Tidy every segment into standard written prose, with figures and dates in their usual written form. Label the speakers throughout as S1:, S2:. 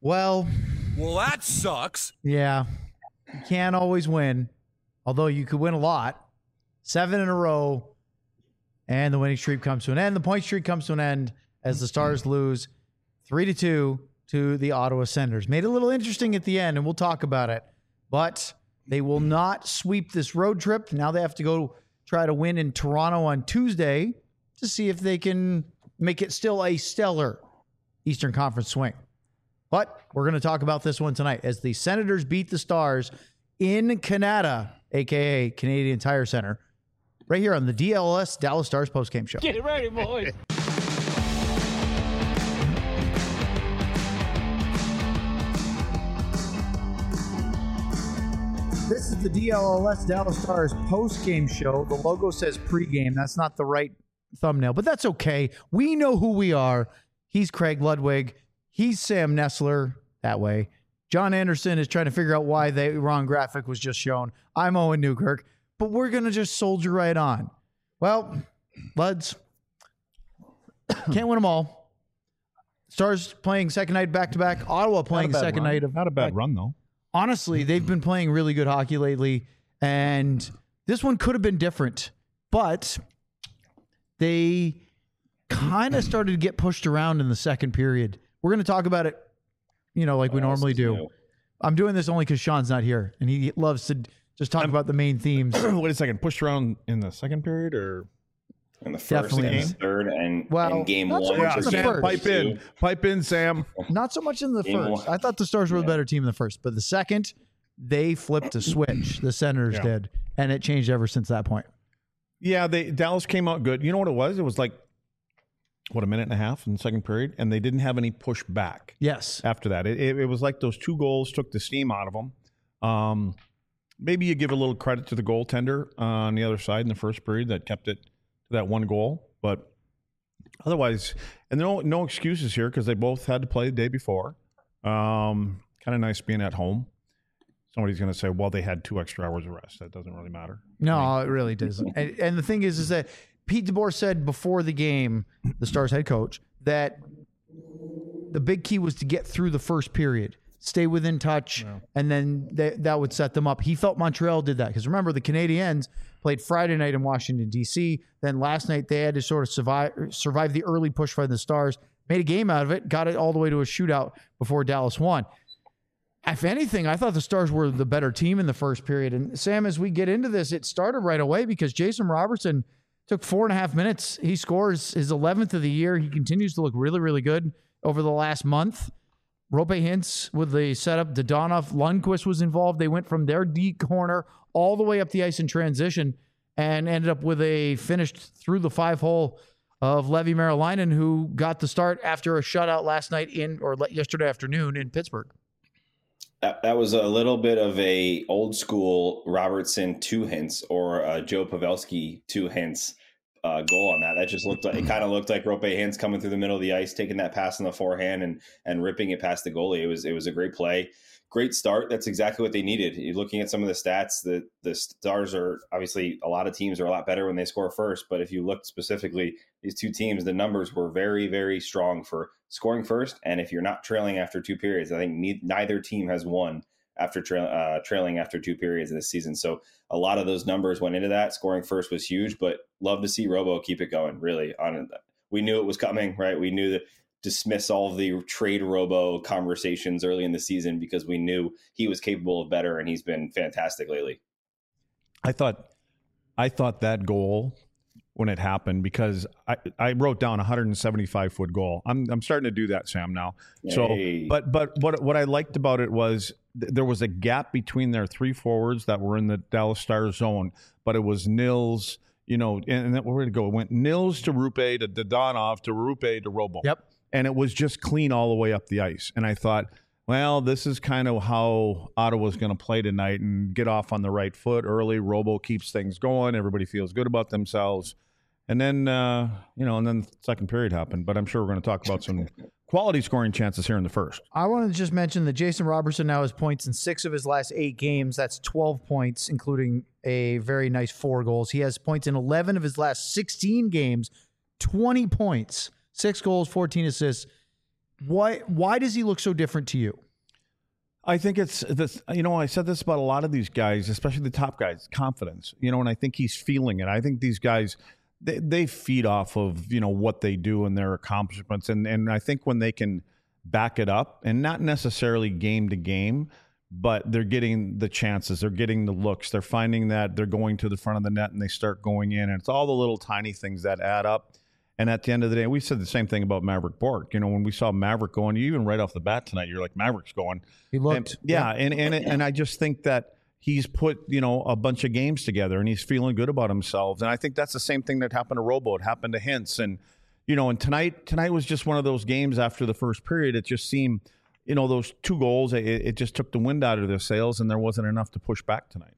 S1: Well,
S2: that sucks.
S1: yeah, you can't always win, although you could win a lot. 7 in a row, and the winning streak comes to an end. The point streak comes to an end as the Stars lose 3-2 to the Ottawa Senators. Made it a little interesting at the end, and we'll talk about it. But they will not sweep this road trip. Now they have to go try to win in Toronto on Tuesday to see if they can make it still a stellar Eastern Conference swing. But we're going to talk about this one tonight as the Senators beat the Stars in Canada, a.k.a. Canadian Tire Center, right here on the DLS Dallas Stars postgame show.
S3: Get ready, boys.
S1: This is the DLS Dallas Stars postgame show. The logo says pregame. That's not the right thumbnail, but that's okay. We know who we are. He's Craig Ludwig. He's Sam Nessler, that way. John Anderson is trying to figure out why the wrong graphic was just shown. I'm Owen Newkirk, but we're going to just soldier right on. Well, Luds, can't win them all. Stars playing second night back-to-back. Ottawa playing second night of...
S4: Not a bad run, though.
S1: Honestly, they've been playing really good hockey lately, and this one could have been different, but they kind of started to get pushed around in the second period. We're going to talk about it, like we normally do. I'm doing this only because Sean's not here, and he loves to just talk about the main themes.
S4: Wait a second. Pushed around in the second period or?
S5: In the first and the third and game
S1: not so
S5: one.
S1: much in the first.
S4: Pipe in, Sam.
S1: Not so much in the first. I thought the Stars were the better team in the first, but the second, they flipped a switch. The Senators did, and it changed ever since that point.
S4: Yeah, Dallas came out good. You know what it was? It was like, a minute and a half in the second period, and they didn't have any push back.
S1: Yes.
S4: After that, it was like those 2 goals took the steam out of them. Maybe you give a little credit to the goaltender on the other side in the first period that kept it to that 1 goal, but otherwise, and no excuses here because they both had to play the day before. Kind of nice being at home. Somebody's going to say, well, they had 2 extra hours of rest. That doesn't really matter.
S1: No, it really doesn't. And the thing is that Pete DeBoer said before the game, the Stars head coach, that the big key was to get through the first period, stay within touch, and then that would set them up. He felt Montreal did that because remember, the Canadiens played Friday night in Washington, D.C. Then last night they had to sort of survive the early push by the Stars, made a game out of it, got it all the way to a shootout before Dallas won. If anything, I thought the Stars were the better team in the first period. And Sam, as we get into this, it started right away because Jason Robertson took 4.5 minutes. He scores his 11th of the year. He continues to look really, really good over the last month. Rope Hintz with the setup. Dadonov, Lundqvist was involved. They went from their deep corner all the way up the ice in transition and ended up with a finished through the 5-hole of Levi Merilainen, who got the start after a shutout last night yesterday afternoon in Pittsburgh.
S5: That was a little bit of a old school Robertson 2 hints or Joe Pavelski 2 hints goal on that. That just looked like it kind of looked like Rope Hintz coming through the middle of the ice, taking that pass on the forehand and ripping it past the goalie. It was a great play. Great start. That's exactly what they needed. You're looking at some of the stats. The Stars are obviously a lot of teams are a lot better when they score first. But if you look specifically, these 2 teams, the numbers were very, very strong for scoring first. And if you're not trailing after 2 periods, I think neither team has won after trailing after 2 periods this season. So a lot of those numbers went into that. Scoring first was huge, but love to see Robo keep it going. Really, we knew it was coming, right? We knew that. Dismiss all of the trade Robo conversations early in the season because we knew he was capable of better, and he's been fantastic lately.
S4: I thought that goal when it happened because I wrote down a 175-foot goal. I'm starting to do that, Sam, now.
S5: Hey.
S4: So, but what I liked about it was there was a gap between their 3 forwards that were in the Dallas Stars zone, but it was Nils, and where did it go? It went Nils to Rupe to Dadonov to Rupe to Robo.
S1: Yep.
S4: And it was just clean all the way up the ice. And I thought, well, this is kind of how Ottawa's going to play tonight and get off on the right foot early. Robo keeps things going. Everybody feels good about themselves. And then, and then the second period happened. But I'm sure we're going to talk about some quality scoring chances here in the first.
S1: I wanted to just mention that Jason Robertson now has points in 6 of his last 8 games. That's 12 points, including a very nice 4 goals. He has points in 11 of his last 16 games, 20 points. 6 goals, 14 assists. Why does he look so different to you?
S4: I think it's this. I said this about a lot of these guys, especially the top guys, confidence. And I think he's feeling it. I think these guys, they feed off of what they do and their accomplishments, and I think when they can back it up, and not necessarily game to game, but they're getting the chances, they're getting the looks, they're finding that they're going to the front of the net and they start going in, and it's all the little tiny things that add up. And at the end of the day, we said the same thing about Maverick Bourque. When we saw Maverick going, even right off the bat tonight, you're like, Maverick's going.
S1: He looked.
S4: And I just think that he's put, a bunch of games together and he's feeling good about himself. And I think that's the same thing that happened to Robo. It happened to Hintz. And, and tonight was just one of those games after the first period. It just seemed, those 2 goals, it just took the wind out of their sails and there wasn't enough to push back tonight.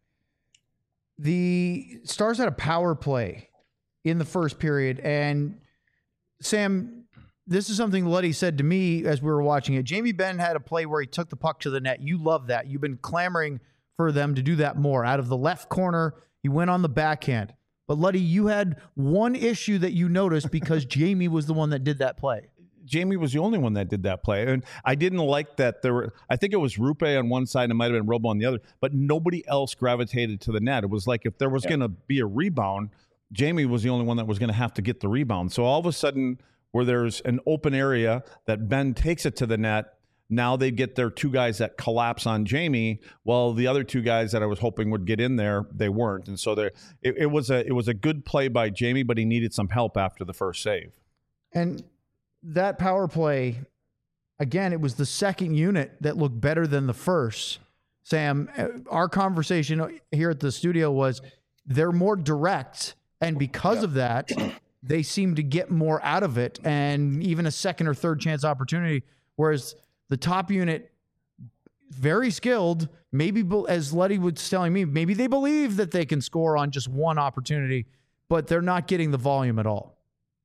S1: The Stars had a power play in the first period, and Sam, this is something Luddy said to me as we were watching it. Jamie Benn had a play where he took the puck to the net. You love that. You've been clamoring for them to do that more. Out of the left corner, he went on the backhand. But Luddy, you had one issue that you noticed because Jamie was the one that did that play.
S4: Jamie was the only one that did that play. And I didn't like that I think it was Rupe on one side and it might have been Robo on the other, but nobody else gravitated to the net. It was like if there was going to be a rebound, Jamie was the only one that was going to have to get the rebound. So all of a sudden, where there's an open area that Ben takes it to the net, now they get their 2 guys that collapse on Jamie. Well, the other 2 guys that I was hoping would get in there, they weren't. And so it was a good play by Jamie, but he needed some help after the first save.
S1: And that power play, again, it was the second unit that looked better than the first. Sam, our conversation here at the studio was they're more direct. And because of that, they seem to get more out of it and even a second or third chance opportunity. Whereas the top unit, very skilled, maybe as Luddy was telling me, maybe they believe that they can score on just one opportunity, but they're not getting the volume at all.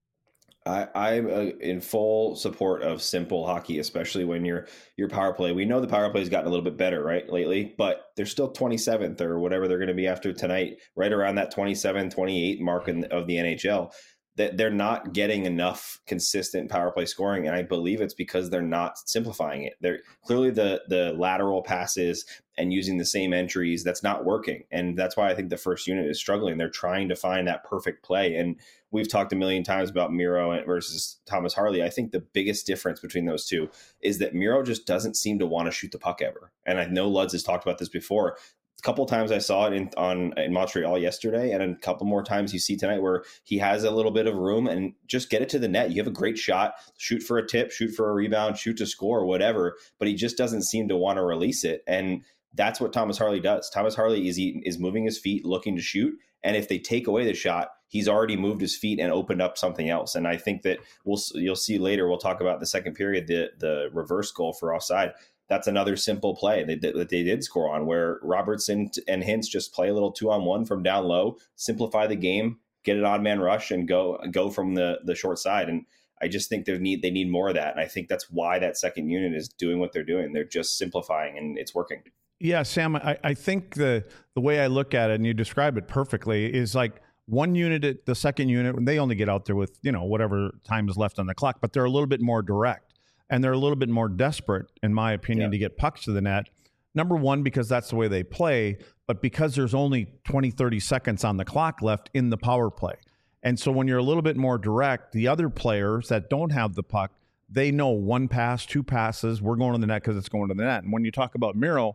S5: I'm in full support of simple hockey, especially when your power play. We know the power play has gotten a little bit better, right, lately, but they're still 27th or whatever they're going to be after tonight, right around that 27, 28 mark of the NHL. That they're not getting enough consistent power play scoring, and I believe it's because they're not simplifying it. They're clearly the lateral passes and using the same entries, that's not working, and that's why I think the first unit is struggling. They're trying to find that perfect play, and we've talked a million times about Miro versus Thomas Harley. I think the biggest difference between those two is that Miro just doesn't seem to want to shoot the puck ever, and I know Luds has talked about this before. A couple of times I saw it in Montreal yesterday, and a couple more times you see tonight where he has a little bit of room and just get it to the net. You have a great shot, shoot for a tip, shoot for a rebound, shoot to score, whatever, but he just doesn't seem to want to release it. And that's what Thomas Harley does. Thomas Harley is moving his feet, looking to shoot. And if they take away the shot, he's already moved his feet and opened up something else. And I think that you'll see later, we'll talk about the second period, the reverse goal for offside. That's another simple play that they did score on, where Robertson and Hintz just play a little 2-on-1 from down low, simplify the game, get an odd man rush, and go from the short side. And I just think they need more of that. And I think that's why that second unit is doing what they're doing. They're just simplifying, and it's working. Yeah,
S4: Sam, I think the way I look at it, and you describe it perfectly, is like one unit at the second unit, they only get out there with, whatever time is left on the clock, but they're a little bit more direct. And they're a little bit more desperate, in my opinion, to get pucks to the net. Number one, because that's the way they play, but because there's only 20, 30 seconds on the clock left in the power play. And so when you're a little bit more direct, the other players that don't have the puck, they know 1 pass, 2 passes, we're going to the net because it's going to the net. And when you talk about Miro,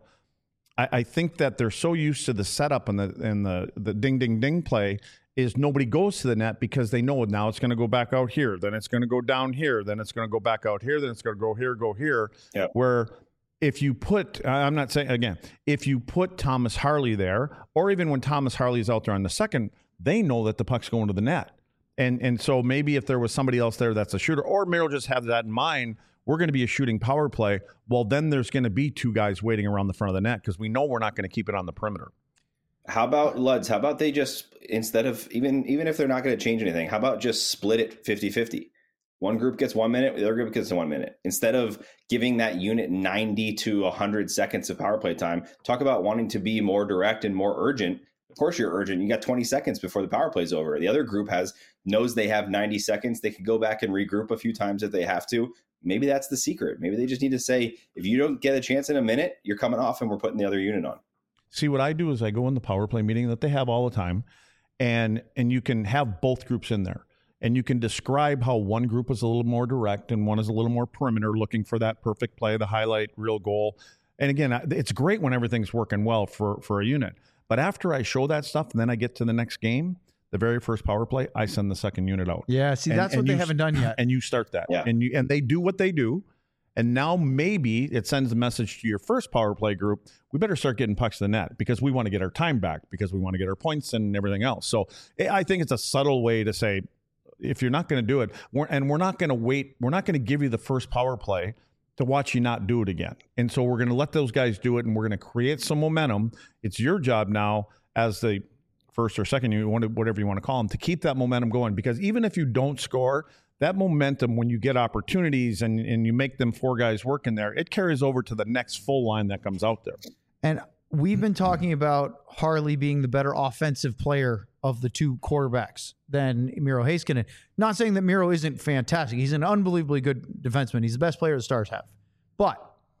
S4: I think that they're so used to the setup and the ding, ding, ding play is nobody goes to the net because they know now it's going to go back out here, then it's going to go down here, then it's going to go back out here, then it's going to go here. Yep. Where if you put, I'm not saying, again, if you put Thomas Harley there, or even when Thomas Harley is out there on the second, they know that the puck's going to the net. And so maybe if there was somebody else there that's a shooter, or Miro just has that in mind, we're going to be a shooting power play, well, then there's going to be 2 guys waiting around the front of the net because we know we're not going to keep it on the perimeter.
S5: How about Luds? How about they just, instead of even if they're not going to change anything, how about just split it 50-50? One group gets 1 minute, the other group gets 1 minute. Instead of giving that unit 90 to 100 seconds of power play time, talk about wanting to be more direct and more urgent. Of course you're urgent. You got 20 seconds before the power play is over. The other group knows they have 90 seconds. They can go back and regroup a few times if they have to, maybe that's the secret. Maybe they just need to say, if you don't get a chance in a minute, you're coming off and we're putting the other unit on.
S4: See, what I do is I go in the power play meeting that they have all the time, and you can have both groups in there. And you can describe how one group is a little more direct and one is a little more perimeter, looking for that perfect play, the highlight, real goal. And again, it's great when everything's working well for a unit. But after I show that stuff and then I get to the next game, the very first power play, I send the second unit out.
S1: Yeah, see, that's what they haven't done yet.
S4: And you start that.
S5: Yeah.
S4: And they do what they do. And now maybe it sends a message to your first power play group, we better start getting pucks to the net because we want to get our time back, because we want to get our points and everything else. So I think it's a subtle way to say, if you're not going to do it, we're not going to wait, we're not going to give you the first power play to watch you not do it again. And so we're going to let those guys do it, and we're going to create some momentum. It's your job now as the first or second unit, whatever you want to call them, to keep that momentum going. Because even if you don't score, that momentum, when you get opportunities and you make them 4 guys work in there, it carries over to the next full line that comes out there.
S1: And we've been talking about Harley being the better offensive player of the 2 quarterbacks than Miro Heiskanen. Not saying that Miro isn't fantastic. He's an unbelievably good defenseman. He's the best player the Stars have. But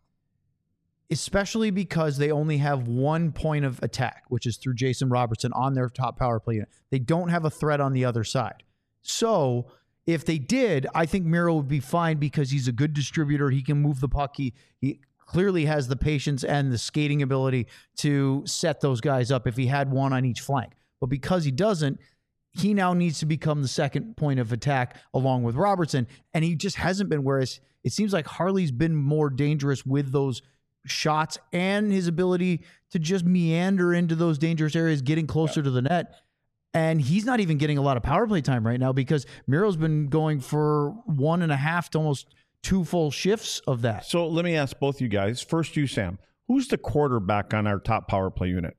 S1: especially because they only have 1 point of attack, which is through Jason Robertson on their top power play unit. They don't have a threat on the other side. So if they did, I think Miro would be fine because he's a good distributor. He can move the puck. He clearly has the patience and the skating ability to set those guys up if he had one on each flank. But because he doesn't, he now needs to become the second point of attack along with Robertson, and he just hasn't been, whereas it seems like Harley's been more dangerous with those shots and his ability to just meander into those dangerous areas, getting closer to the net. And he's not even getting a lot of power play time right now because Miro's been going for 1.5 to almost 2 full shifts of that.
S4: So let me ask both you guys. First, you, Sam. Who's the quarterback on our top power play unit?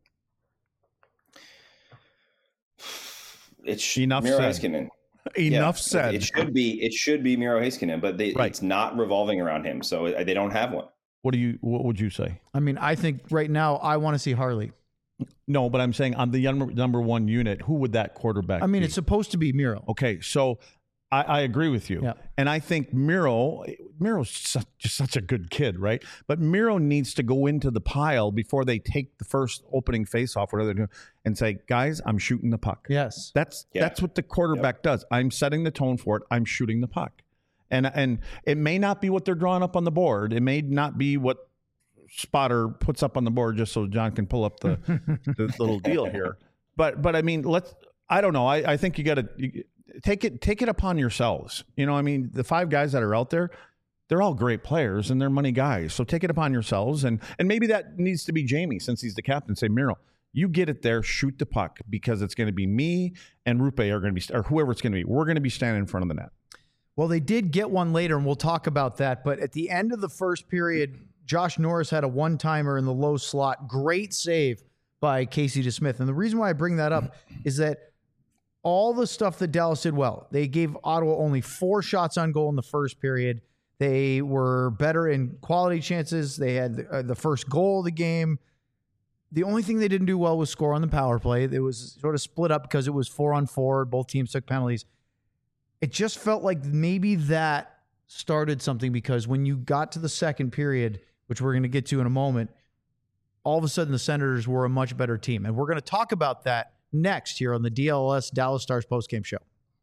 S5: It's
S4: Enough
S5: Miro
S4: said.
S5: Heiskanen.
S4: Enough said.
S5: It should be Miro Heiskanen, but it's not revolving around him, so they don't have one.
S4: What would you say?
S1: I mean, I think right now I want to see Harley.
S4: No, but I'm saying on the number 1 unit, who would that quarterback be?
S1: It's supposed to be Miro.
S4: Okay, so I agree with you.
S1: Yeah. And
S4: I think Miro's just such a good kid, right? But Miro needs to go into the pile before they take the first opening faceoff, whatever they're doing, and say, guys, I'm shooting the puck.
S1: Yes.
S4: That's what the quarterback does. I'm setting the tone for it. I'm shooting the puck. And it may not be what they're drawing up on the board. It may not be what Spotter puts up on the board just so John can pull up the little deal here. But I mean, I don't know. I think you got to take it upon yourselves. The 5 guys that are out there, they're all great players and they're money guys. So take it upon yourselves. And maybe that needs to be Jamie, since he's the captain. Say, Miro, you get it there, shoot the puck, because it's going to be me and Rupe are going to be, or whoever it's going to be. We're going to be standing in front of the net.
S1: Well, they did get one later, and we'll talk about that. But at the end of the first period, Josh Norris had a one-timer in the low slot. Great save by Casey DeSmith. And the reason why I bring that up is that all the stuff that Dallas did well, they gave Ottawa only 4 shots on goal in the first period. They were better in quality chances. They had the first goal of the game. The only thing they didn't do well was score on the power play. It was sort of split up because it was 4-on-4. Both teams took penalties. It just felt like maybe that started something, because when you got to the second period, which we're going to get to in a moment, all of a sudden the Senators were a much better team. And we're going to talk about that next here on the DLS Dallas Stars postgame show.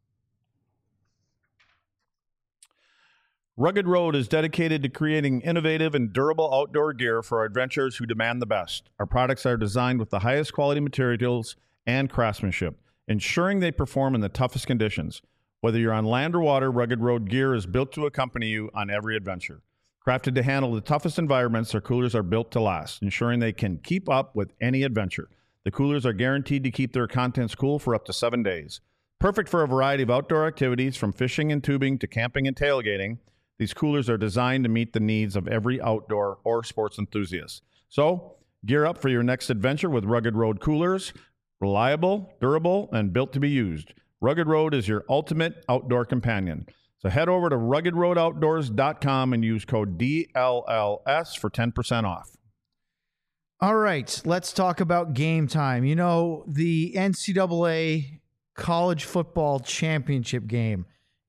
S4: Rugged Road is dedicated to creating innovative and durable outdoor gear for our adventurers who demand the best. Our products are designed with the highest quality materials and craftsmanship, ensuring they perform in the toughest conditions. Whether you're on land or water, Rugged Road gear is built to accompany you on every adventure. Crafted to handle the toughest environments, their coolers are built to last, ensuring they can keep up with any adventure. The coolers are guaranteed to keep their contents cool for up to 7 days. Perfect for a variety of outdoor activities, from fishing and tubing to camping and tailgating. These coolers are designed to meet the needs of every outdoor or sports enthusiast. So, gear up for your next adventure with Rugged Road coolers. Reliable, durable, and built to be used. Rugged Road is your ultimate outdoor companion. So head over to ruggedroadoutdoors.com and use code DLLS for 10% off.
S1: All right, let's talk about game time. You know, the NCAA college football championship game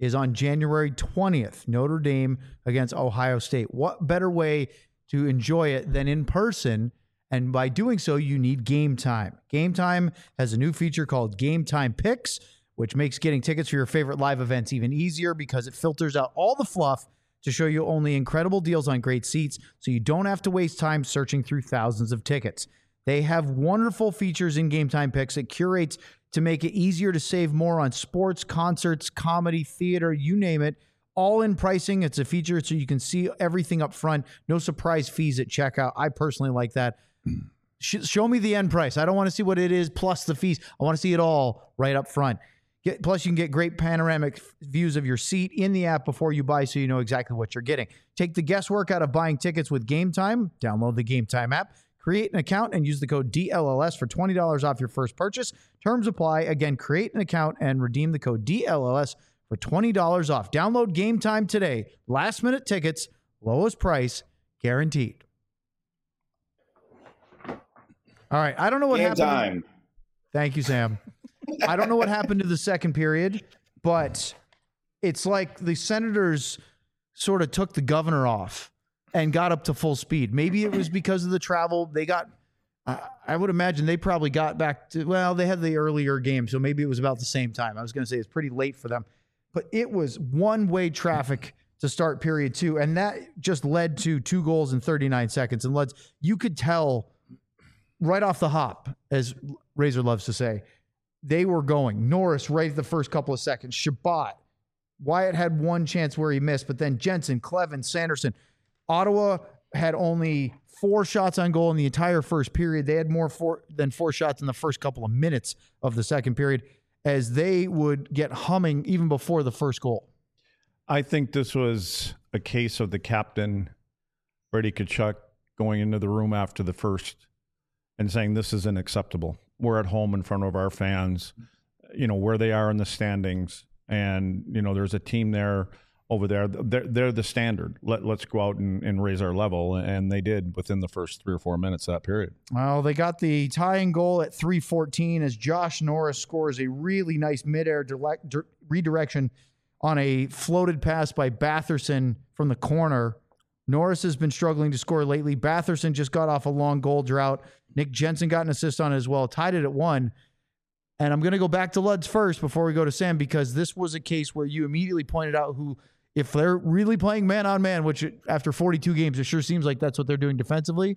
S1: is on January 20th, Notre Dame against Ohio State. What better way to enjoy it than in person? And by doing so, you need Game Time. Game Time has a new feature called Game Time Picks, which makes getting tickets for your favorite live events even easier because it filters out all the fluff to show you only incredible deals on great seats, so you don't have to waste time searching through thousands of tickets. They have wonderful features in Game Time Picks. It curates to make it easier to save more on sports, concerts, comedy, theater, you name it, all in pricing. It's a feature so you can see everything up front. No surprise fees at checkout. I personally like that. Show me the end price. I don't want to see what it is plus the fees. I want to see it all right up front. Plus, you can get great panoramic views of your seat in the app before you buy, so you know exactly what you're getting. Take the guesswork out of buying tickets with Game Time. Download the Game Time app, create an account, and use the code DLLS for $20 off your first purchase. Terms apply. Again, create an account and redeem the code DLLS for $20 off. Download Game Time today. Last-minute tickets, lowest price, guaranteed. All right, I don't know what
S5: Game
S1: happened.
S5: time.
S1: Thank you, Sam. I don't know what happened to the second period, but it's like the Senators sort of took the governor off and got up to full speed. Maybe it was because of the travel. They got, I would imagine they probably got back to, well, they had the earlier game, so maybe it was about the same time. I was going to say it's pretty late for them, but it was one-way traffic to start period two, and that just led to 2 goals in 39 seconds. And you could tell right off the hop, as Razor loves to say, they were going. Norris right at the first couple of seconds. Shabbat. Wyatt had one chance where he missed, but then Jensen, Clevin, Sanderson. Ottawa had only 4 shots on goal in the entire first period. They had more than 4 shots in the first couple of minutes of the second period as they would get humming even before the first goal.
S4: I think this was a case of the captain, Brady Tkachuk, going into the room after the first and saying this is unacceptable. We're at home in front of our fans, where they are in the standings. And, there's a team there over there. They're the standard. Let's go out and raise our level. And they did within the first 3 or 4 minutes of that period.
S1: Well, they got the tying goal at 3:14 as Josh Norris scores a really nice midair redirection on a floated pass by Batherson from the corner. Norris has been struggling to score lately. Batherson just got off a long goal drought. Nick Jensen got an assist on it as well, tied it at 1. And I'm going to go back to Luds first before we go to Sam, because this was a case where you immediately pointed out if they're really playing man-on-man, which after 42 games, it sure seems like that's what they're doing defensively.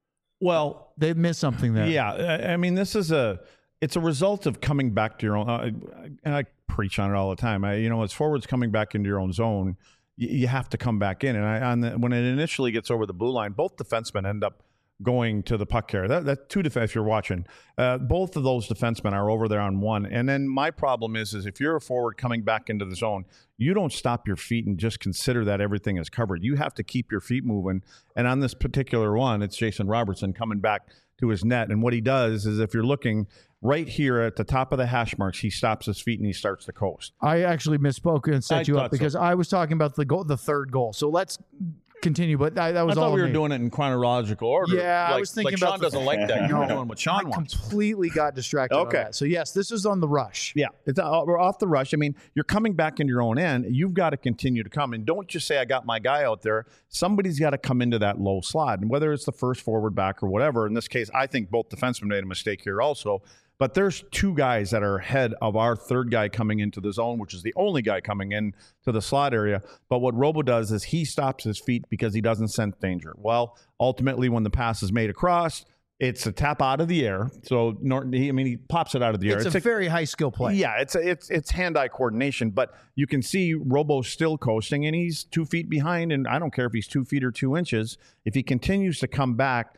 S1: Well, they've missed something there.
S4: Yeah, I mean, it's a result of coming back to your own. And I preach on it all the time. As forwards coming back into your own zone, you have to come back in. And when it initially gets over the blue line, both defensemen end up going to the puck carrier. That 2 defense, if you're watching, both of those defensemen are over there on 1. And then my problem is if you're a forward coming back into the zone, you don't stop your feet and just consider that everything is covered. You have to keep your feet moving. And on this particular one, it's Jason Robertson coming back to his net. And what he does is, if you're looking right here at the top of the hash marks, he stops his feet and he starts to coast.
S1: I actually misspoke and set you up because I was talking about the third goal. So let's continue, but that was all.
S4: I thought we were doing it in chronological order.
S1: Yeah, I was thinking about
S4: Sean doesn't like that. You're doing what Sean wants.
S1: Completely got distracted.
S4: Okay.
S1: On that. So yes, this is on the rush.
S4: Yeah, we're off the rush. I mean, you're coming back into your own end. You've got to continue to come, and don't just say I got my guy out there. Somebody's got to come into that low slot, and whether it's the first forward back or whatever. In this case, I think both defensemen made a mistake here also. But there's 2 guys that are ahead of our third guy coming into the zone, which is the only guy coming in to the slot area. But what Robo does is he stops his feet because he doesn't sense danger. Well, ultimately, when the pass is made across, it's a tap out of the air. So Norton, he pops it out of the air.
S1: It's a very high skill play.
S4: Yeah, it's hand-eye coordination. But you can see Robo still coasting, and he's 2 feet behind. And I don't care if he's 2 feet or 2 inches. If he continues to come back,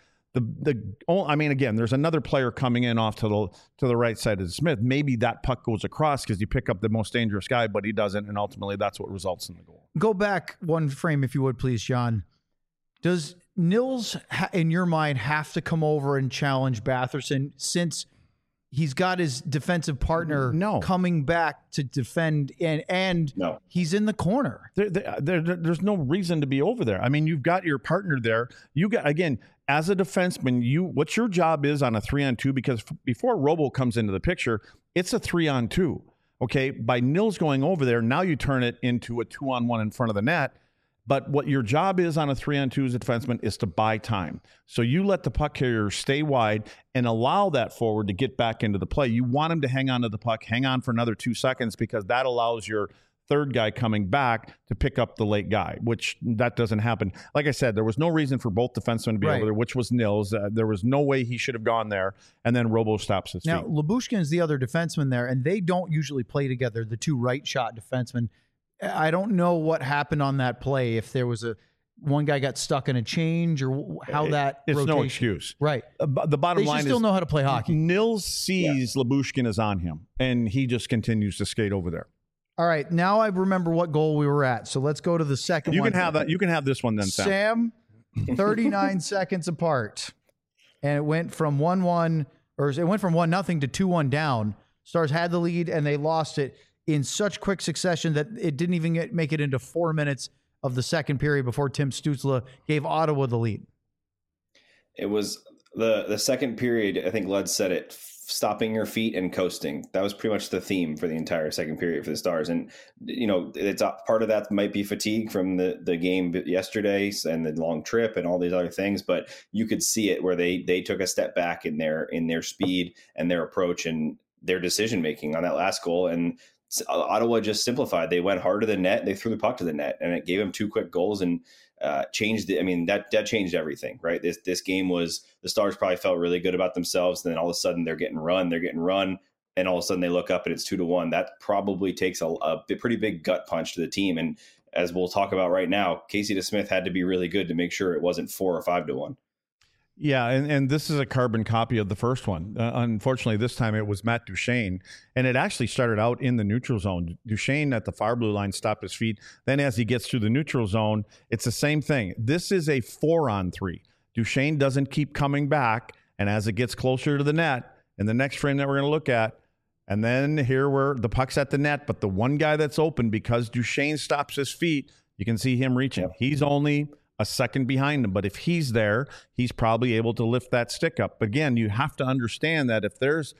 S4: again, there's another player coming in off to the right side of Smith. Maybe that puck goes across because you pick up the most dangerous guy, but he doesn't, and ultimately that's what results in the goal.
S1: Go back one frame, if you would, please, John. Does Nils, in your mind, have to come over and challenge Batherson since he's got his defensive partner coming back to defend, and he's in the corner?
S4: There's no reason to be over there. I mean, you've got your partner there. You got, again, as a defenseman, what your job is on a 3-on-2, because before Robo comes into the picture, it's a 3-on-2. Okay, by Nils going over there, now you turn it into a 2-on-1 in front of the net. But what your job is on a 3-on-2 as a defenseman is to buy time. So you let the puck carrier stay wide and allow that forward to get back into the play. You want him to hang on to the puck, hang on for another 2 seconds, because that allows your third guy coming back to pick up the late guy, which that doesn't happen. Like I said, there was no reason for both defensemen to be over there, which was Nils. There was no way he should have gone there. And then Robo stops his feet.
S1: Now, Lyubushkin is the other defenseman there, and they don't usually play together, the two right shot defensemen. I don't know what happened on that play, if there was one guy got stuck in a change or how that
S4: it's
S1: rotation.
S4: No excuse.
S1: Right.
S4: The bottom line is
S1: they still know how to play hockey.
S4: Nils sees Lyubushkin is on him, and he just continues to skate over there.
S1: All right, now I remember what goal we were at. So let's go to the second one.
S4: You can have that. You can have this one then,
S1: Sam. 39 seconds apart, and it went from 1-1, or it went from 1-0 to 2-1 down. Stars had the lead, and they lost it in such quick succession that it didn't even make it into 4 minutes of the second period before Tim Stützle gave Ottawa the lead.
S5: It was the second period. I think Lud said it. Stopping your feet and coasting. That was pretty much the theme for the entire second period for the Stars. And, it's part of that might be fatigue from the game yesterday and the long trip and all these other things, but you could see it where they took a step back in their speed and their approach and their decision-making on that last goal. And Ottawa just simplified. They went hard to the net. They threw the puck to the net, and it gave them 2 quick goals and changed it. I mean, that changed everything, right? This game was, the Stars probably felt really good about themselves. And then all of a sudden they're getting run. And all of a sudden they look up and it's 2-1. That probably takes a pretty big gut punch to the team. And as we'll talk about right now, Casey DeSmith had to be really good to make sure it wasn't 4 or 5-1.
S4: Yeah, and this is a carbon copy of the first one. Unfortunately, this time it was Matt Duchene, and it actually started out in the neutral zone. Duchene at the far blue line stopped his feet. Then as he gets through the neutral zone, it's the same thing. This is a 4-on-3. Duchene doesn't keep coming back, and as it gets closer to the net, in the next frame that we're going to look at, and then here where the puck's at the net, but the one guy that's open, because Duchene stops his feet, you can see him reaching. Yep. He's only a second behind him, but if he's there, he's probably able to lift that stick up. But again, you have to understand that if there's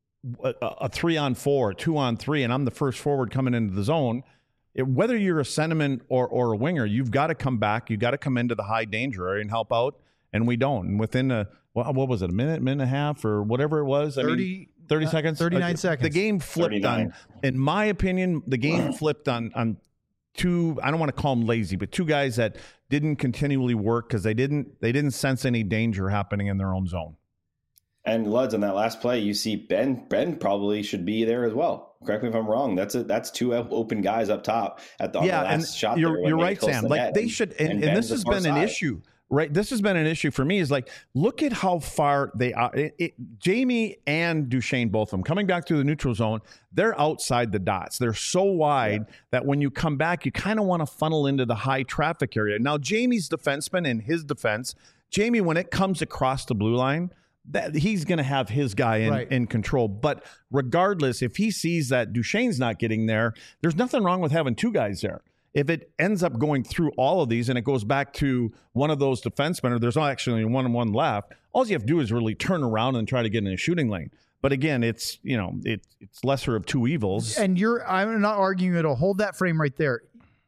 S4: a 3-on-4, 2-on-3, and I'm the first forward coming into the zone, whether you're a centerman or a winger, you've got to come back. You've got to come into the high danger area and help out, and we don't. And within what was it, a minute and a half, or whatever it was? 30 seconds?
S1: 39 seconds.
S4: The game flipped 39. In my opinion, the game flipped on two, I don't want to call them lazy, but two guys that didn't continually work because they didn't sense any danger happening in their own zone.
S5: And Luds, on that last play, you see Ben probably should be there as well. Correct me if I'm wrong. That's 2 open guys up top at the last shot.
S4: You're right, Sam. Like they should, and this has been an issue. Right, this has been an issue for me. Is like, look at how far they are. Jamie and Duchene, both of them, coming back through the neutral zone, they're outside the dots. They're so wide that when you come back, you kind of want to funnel into the high traffic area. Now, Jamie's defenseman, in his defense, Jamie, when it comes across the blue line, that he's going to have his guy in control. But regardless, if he sees that Duchene's not getting there, there's nothing wrong with having 2 guys there. If it ends up going through all of these and it goes back to one of those defensemen, or there's actually 1-1 left, all you have to do is really turn around and try to get in a shooting lane. But again, it's lesser of 2 evils. And
S1: I'm not arguing at all. Hold that frame right there.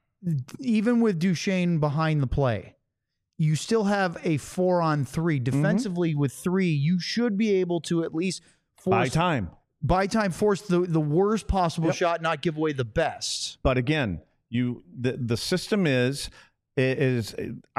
S1: Even with Duchene behind the play, you still have a 4-on-3 defensively. With 3. You should be able to at least force force the worst possible shot, not give away the best.
S4: But again, the system this is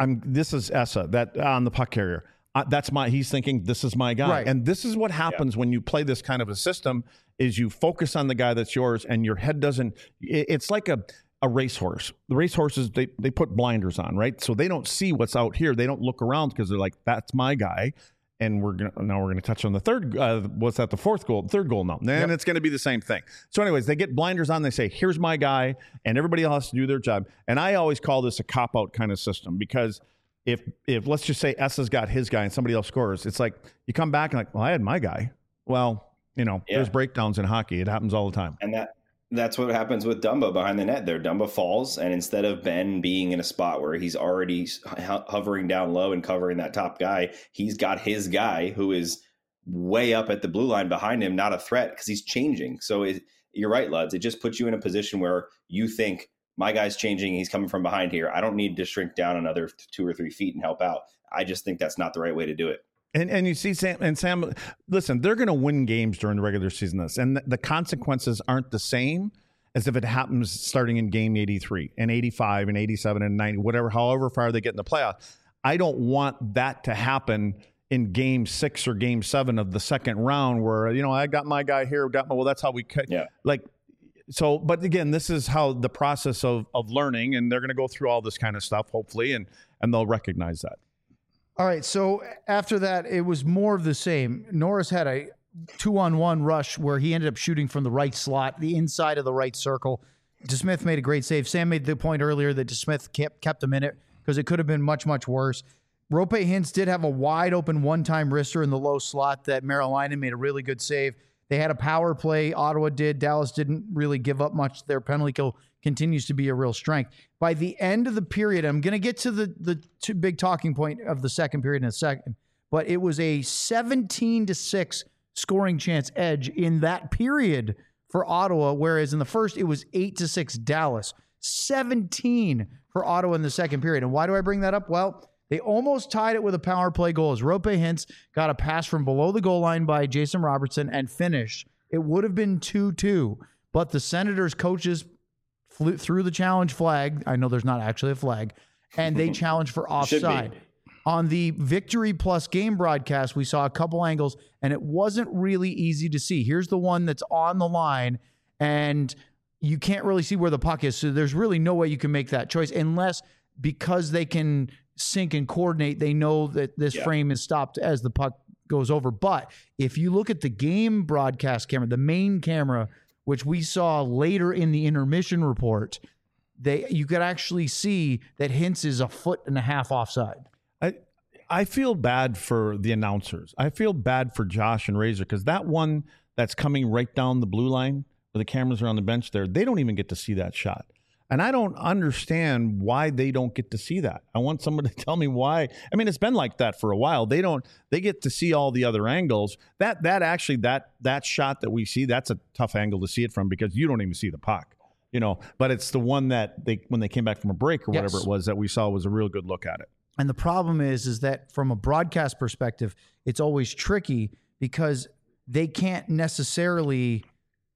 S4: Essa that on the puck carrier. He's thinking this is my guy. Right. And this is what happens when you play this kind of a system is you focus on the guy that's yours and your head doesn't, it's like a racehorse. The racehorses, they put blinders on, right? So they don't see what's out here. They don't look around because they're like, that's my guy. And we're gonna touch on the third. The fourth goal? Third goal now. And it's going to be the same thing. So, anyways, they get blinders on. They say, "Here's my guy," and everybody else has to do their job. And I always call this a cop out kind of system because if let's just say Essa's got his guy and somebody else scores, it's like you come back and like, well, I had my guy. Well, there's breakdowns in hockey. It happens all the time.
S5: And that's what happens with Dumba behind the net there. Dumba falls, and instead of Ben being in a spot where he's already hovering down low and covering that top guy, he's got his guy who is way up at the blue line behind him, not a threat because he's changing. So you're right, Luds. It just puts you in a position where you think, my guy's changing. He's coming from behind here. I don't need to shrink down another 2 or 3 feet and help out. I just think that's not the right way to do it.
S4: And you see Sam, listen, they're going to win games during the regular season. And the consequences aren't the same as if it happens starting in game 83 and 85 and 87 and 90, whatever, however far they get in the playoffs. I don't want that to happen in game 6 or game 7 of the second round where, I got my guy here, well, that's how we cut.
S5: Yeah.
S4: So, but again, this is how the process of learning, and they're going to go through all this kind of stuff, hopefully, and they'll recognize that.
S1: All right. So after that, it was more of the same. Norris had a 2-on-1 rush where he ended up shooting from the right slot, the inside of the right circle. DeSmith made a great save. Sam made the point earlier that DeSmith kept him in it because it could have been much, much worse. Rope Hintz did have a wide open one-time wrister in the low slot that Merrill made a really good save. They had a power play. Ottawa did. Dallas didn't really give up much. Their penalty kill continues to be a real strength. By the end of the period, I'm going to get to the two big talking point of the second period in a second, but it was a 17-6 scoring chance edge in that period for Ottawa, whereas in the first, it was 8-6 Dallas. 17 for Ottawa in the second period. And why do I bring that up? Well, they almost tied it with a power play goal as Rope Hintz got a pass from below the goal line by Jason Robertson and finished. It would have been 2-2, but the Senators coaches threw the challenge flag. I know there's not actually a flag, and they challenged for offside. On the Victory Plus game broadcast, we saw a couple angles, and it wasn't really easy to see. Here's the one that's on the line, and you can't really see where the puck is, so there's really no way you can make that choice unless, because they can sync and coordinate, they know that this frame is stopped as the puck goes over. But if you look at the game broadcast camera, the main camera, which we saw later in the intermission report, you could actually see that Hintz is 1.5 feet offside.
S4: I feel bad for the announcers. I feel bad for Josh and Razor because that one that's coming right down the blue line where the cameras are on the bench there, they don't even get to see that shot. And I don't understand why they don't get to see that. I want someone to tell me why. I mean, it's been like that for a while. They get to see all the other angles. That shot that we see, that's a tough angle to see it from because you don't even see the puck, but it's the one that when they came back from a break or whatever it was that we saw was a real good look at it.
S1: And the problem is that from a broadcast perspective, it's always tricky because they can't necessarily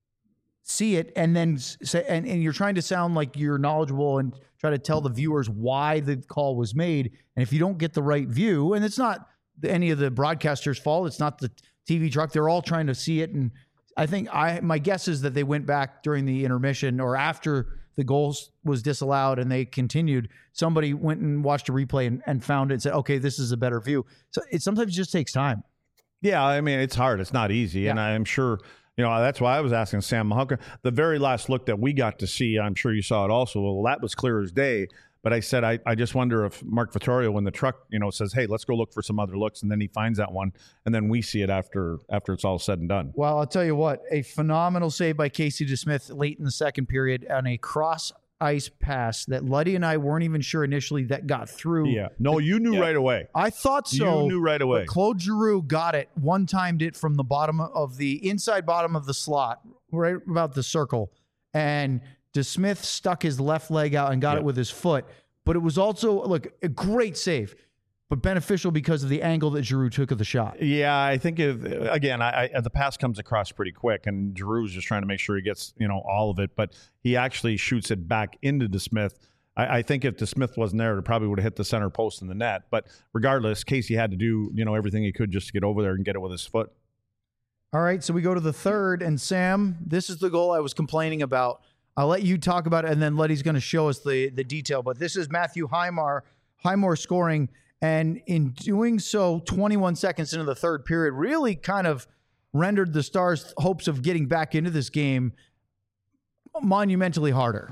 S1: see it and then say, and you're trying to sound like you're knowledgeable and try to tell the viewers why the call was made. And if you don't get the right view, and it's not any of the broadcasters' fault, it's not the TV truck, they're all trying to see it. And I think my guess is that they went back during the intermission or after the goals was disallowed and they continued. Somebody went and watched a replay and found it and said, okay, this is a better view. So it sometimes just takes time.
S4: Yeah, I mean, it's hard. It's not easy. Yeah. And I'm sure, that's why I was asking Sam Mahunka. The very last look that we got to see, I'm sure you saw it also. Well, that was clear as day. But I said, I just wonder if Mark Vittorio, when the truck, says, hey, let's go look for some other looks. And then he finds that one. And then we see it after it's all said and done.
S1: Well, I'll tell you what, a phenomenal save by Casey DeSmith late in the second period on a cross ice pass that Luddy and I weren't even sure initially that got through.
S4: Yeah. No, you knew right away.
S1: I thought so.
S4: You knew right away.
S1: But Claude Giroux got it, one-timed it from the bottom of the inside bottom of the slot, right about the circle. And DeSmith stuck his left leg out and got it with his foot. But it was also, a great save, but beneficial because of the angle that Giroux took of the shot.
S4: Yeah, I think, the pass comes across pretty quick, and Giroux's just trying to make sure he gets, all of it. But he actually shoots it back into DeSmith. I think if DeSmith wasn't there, it probably would have hit the center post in the net. But regardless, Casey had to do, everything he could just to get over there and get it with his foot.
S1: All right, so we go to the third. And, Sam, this is the goal I was complaining about. I'll let you talk about it, and then Letty's going to show us the detail. But this is Matthew Highmore scoring, and in doing so, 21 seconds into the third period, really kind of rendered the Stars' hopes of getting back into this game monumentally harder.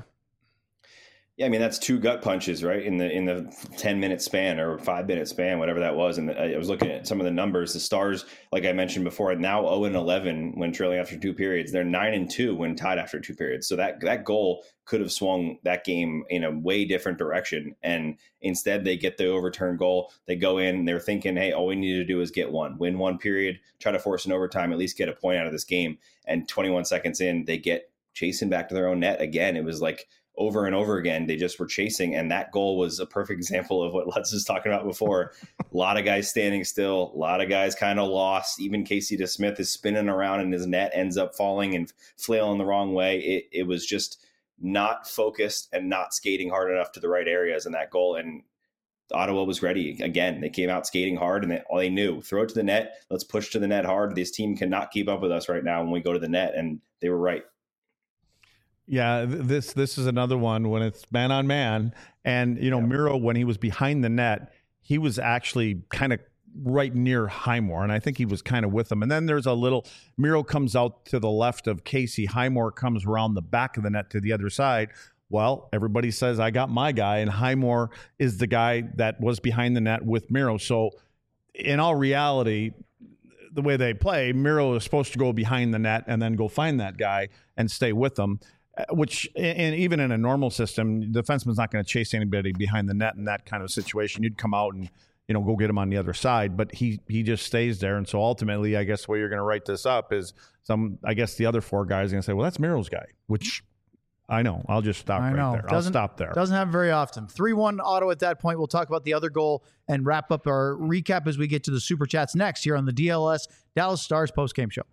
S5: Yeah, I mean, that's 2 gut punches, right? In the 10-minute span or 5-minute span, whatever that was. And I was looking at some of the numbers. The Stars, like I mentioned before, are now 0-11 when trailing after 2 periods. They're 9-2 when tied after 2 periods. So that goal could have swung that game in a way different direction. And instead, they get the overturned goal. They go in, they're thinking, hey, all we need to do is get one, win 1 period, try to force an overtime, at least get a point out of this game. And 21 seconds in, they get chasing back to their own net again. It was like over and over again, they just were chasing. And that goal was a perfect example of what Lutz was talking about before. A lot of guys standing still, a lot of guys kind of lost. Even Casey DeSmith is spinning around and his net ends up falling and flailing the wrong way. It was just not focused and not skating hard enough to the right areas in that goal. And Ottawa was ready again. They came out skating hard, and all they knew, throw it to the net. Let's push to the net hard. This team cannot keep up with us right now when we go to the net. And they were right.
S4: Yeah, this is another one when it's man on man. And, Miro, when he was behind the net, he was actually kind of right near Highmore, and I think he was kind of with him. And then there's Miro comes out to the left of Casey. Highmore comes around the back of the net to the other side. Well, everybody says, I got my guy, and Highmore is the guy that was behind the net with Miro. So in all reality, the way they play, Miro is supposed to go behind the net and then go find that guy and stay with them. Which, and even in a normal system, the defenseman's not going to chase anybody behind the net in that kind of situation. You'd come out and, go get him on the other side, but he just stays there. And so ultimately, I guess the way you're going to write this up is the other four guys are going to say, well, that's Miro's guy, which I know. I'll just stop right there. I'll stop there.
S1: Doesn't happen very often. 3-1 Ottawa at that point. We'll talk about the other goal and wrap up our recap as we get to the Super Chats next here on the DLS Dallas Stars postgame show.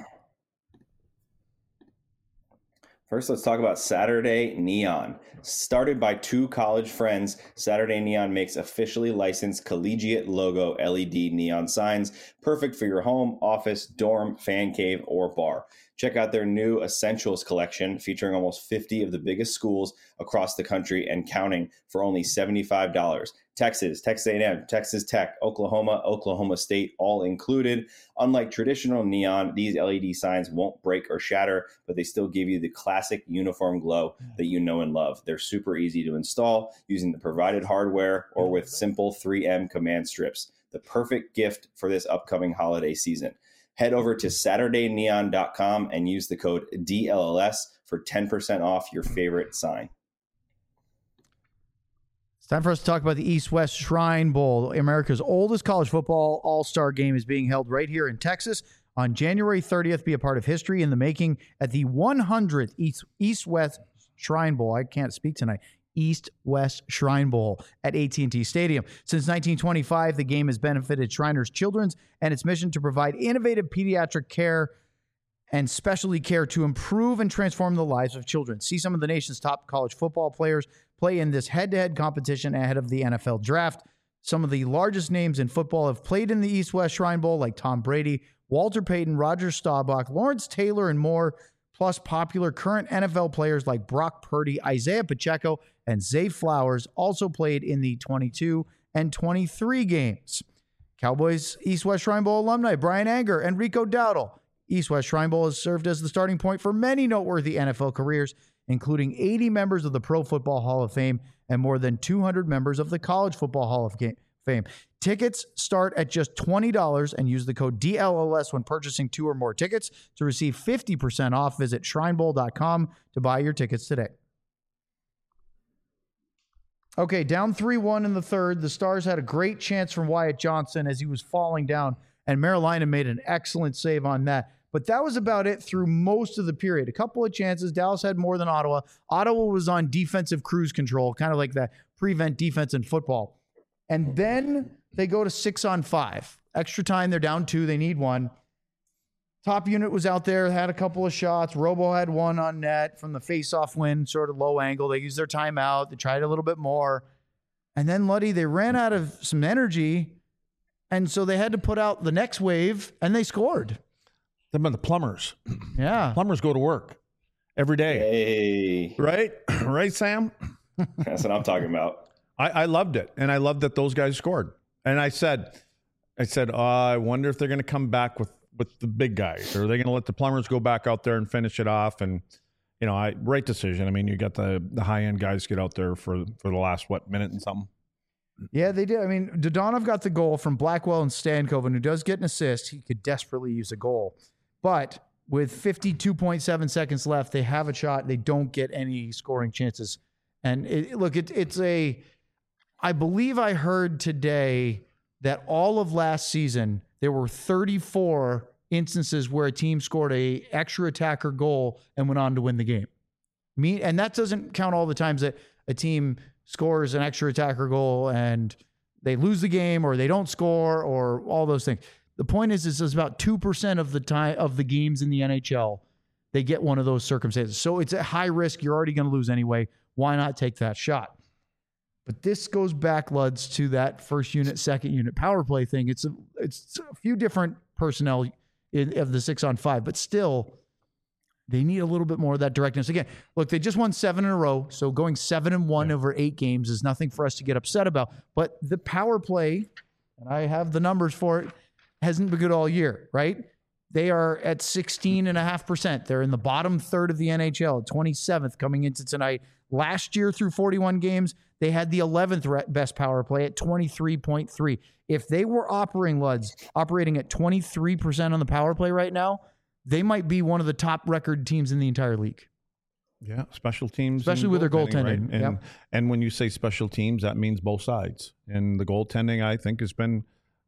S5: First, let's talk about Saturday Neon. Started by two college friends, Saturday Neon makes officially licensed collegiate logo LED neon signs, perfect for your home, office, dorm, fan cave, or bar. Check out their new Essentials collection featuring almost 50 of the biggest schools across the country and counting for only $75. Texas, Texas A&M, Texas Tech, Oklahoma, Oklahoma State, all included. Unlike traditional neon, these LED signs won't break or shatter, but they still give you the classic uniform glow that you know and love. They're super easy to install using the provided hardware or with simple 3M command strips. The perfect gift for this upcoming holiday season. Head over to SaturdayNeon.com and use the code DLLS for 10% off your favorite sign.
S1: It's time for us to talk about the East-West Shrine Bowl. America's oldest college football all-star game is being held right here in Texas on January 30th. Be a part of history in the making at the 100th East-West Shrine Bowl. I can't speak tonight. East-West Shrine Bowl at AT&T Stadium. Since 1925, the game has benefited Shriners Children's and its mission to provide innovative pediatric care and specialty care to improve and transform the lives of children. See some of the nation's top college football players play in this head-to-head competition ahead of the NFL draft. Some of the largest names in football have played in the East-West Shrine Bowl, like Tom Brady, Walter Payton, Roger Staubach, Lawrence Taylor, and more, plus popular current NFL players like Brock Purdy, Isaiah Pacheco, and Zay Flowers also played in the 22 and 23 games. Cowboys East-West Shrine Bowl alumni Brian Anger and Rico Dowdle. East-West Shrine Bowl has served as the starting point for many noteworthy NFL careers, including 80 members of the Pro Football Hall of Fame and more than 200 members of the College Football Hall of Fame. Tickets start at just $20 and use the code DLLS when purchasing 2 or more tickets to receive 50% off. Visit shrinebowl.com to buy your tickets today. Okay, down 3-1 in the third. The Stars had a great chance from Wyatt Johnson as he was falling down, and Marilina made an excellent save on that. But that was about it through most of the period. A couple of chances. Dallas had more than Ottawa. Ottawa was on defensive cruise control, kind of like that prevent defense in football. And then they go to 6-on-5. Extra time, they're down 2. They need 1. Top unit was out there, had a couple of shots. Robo had 1 on net from the face-off win, sort of low angle. They used their timeout. They tried a little bit more. And then, Luddy, they ran out of some energy, and so they had to put out the next wave, and they scored.
S4: Them are the plumbers.
S1: Yeah.
S4: Plumbers go to work every day.
S5: Hey.
S4: Right? Right, Sam?
S5: That's what I'm talking about.
S4: I loved it, and I loved that those guys scored. And I said, I wonder if they're going to come back with the big guys, or are they going to let the plumbers go back out there and finish it off? And, right decision. I mean, you got the high-end guys get out there for the last, minute and something.
S1: Yeah, they did. I mean, Dodonov got the goal from Blackwell and Stankoven, who does get an assist. He could desperately use a goal. But with 52.7 seconds left, they have a shot. They don't get any scoring chances. And I believe I heard today that all of last season, there were 34 instances where a team scored a extra attacker goal and went on to win the game. And that doesn't count all the times that a team scores an extra attacker goal and they lose the game or they don't score or all those things. The point is it's about 2% of the time of the games in the NHL they get one of those circumstances. So it's a high risk. You're already going to lose anyway. Why not take that shot? But this goes back, Luds, to that first unit, second unit power play thing. It's a few different personnel of the 6-on-5, but still, they need a little bit more of that directness. Again, look, they just won 7 in a row, so going 7-1 over 8 games is nothing for us to get upset about. But the power play, and I have the numbers for it, hasn't been good all year, right? They are at 16.5%. They're in the bottom third of the NHL, 27th coming into tonight. Last year through 41 games, they had the 11th best power play at 23.3. If they were operating at 23% on the power play right now, they might be one of the top record teams in the entire league.
S4: Yeah, special teams.
S1: Especially with their goaltending.
S4: Right? And when you say special teams, that means both sides. And the goaltending, I think, has been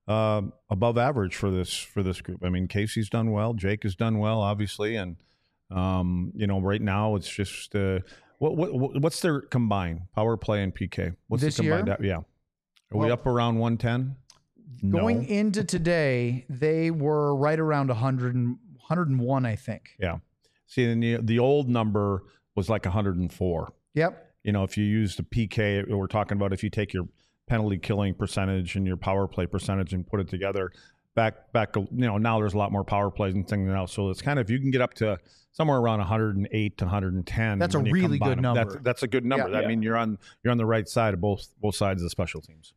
S4: above average for this group. I mean, Casey's done well. Jake has done well, obviously. And, right now it's just what's their combined power play and PK? What's
S1: this
S4: the combined?
S1: year?
S4: Yeah. Are we up around 110?
S1: Going
S4: No.
S1: into today, they were right around 101, I think.
S4: Yeah. See, and the old number was like 104.
S1: Yep.
S4: If you use the PK, we're talking about if you take your penalty killing percentage and your power play percentage and put it together, back, now there's a lot more power plays and things else. So it's kind of, you can get up to somewhere around 108 to 110.
S1: That's a really good number.
S4: That's a good number.
S1: Yeah.
S4: I mean, you're on the right side of both sides of the special teams.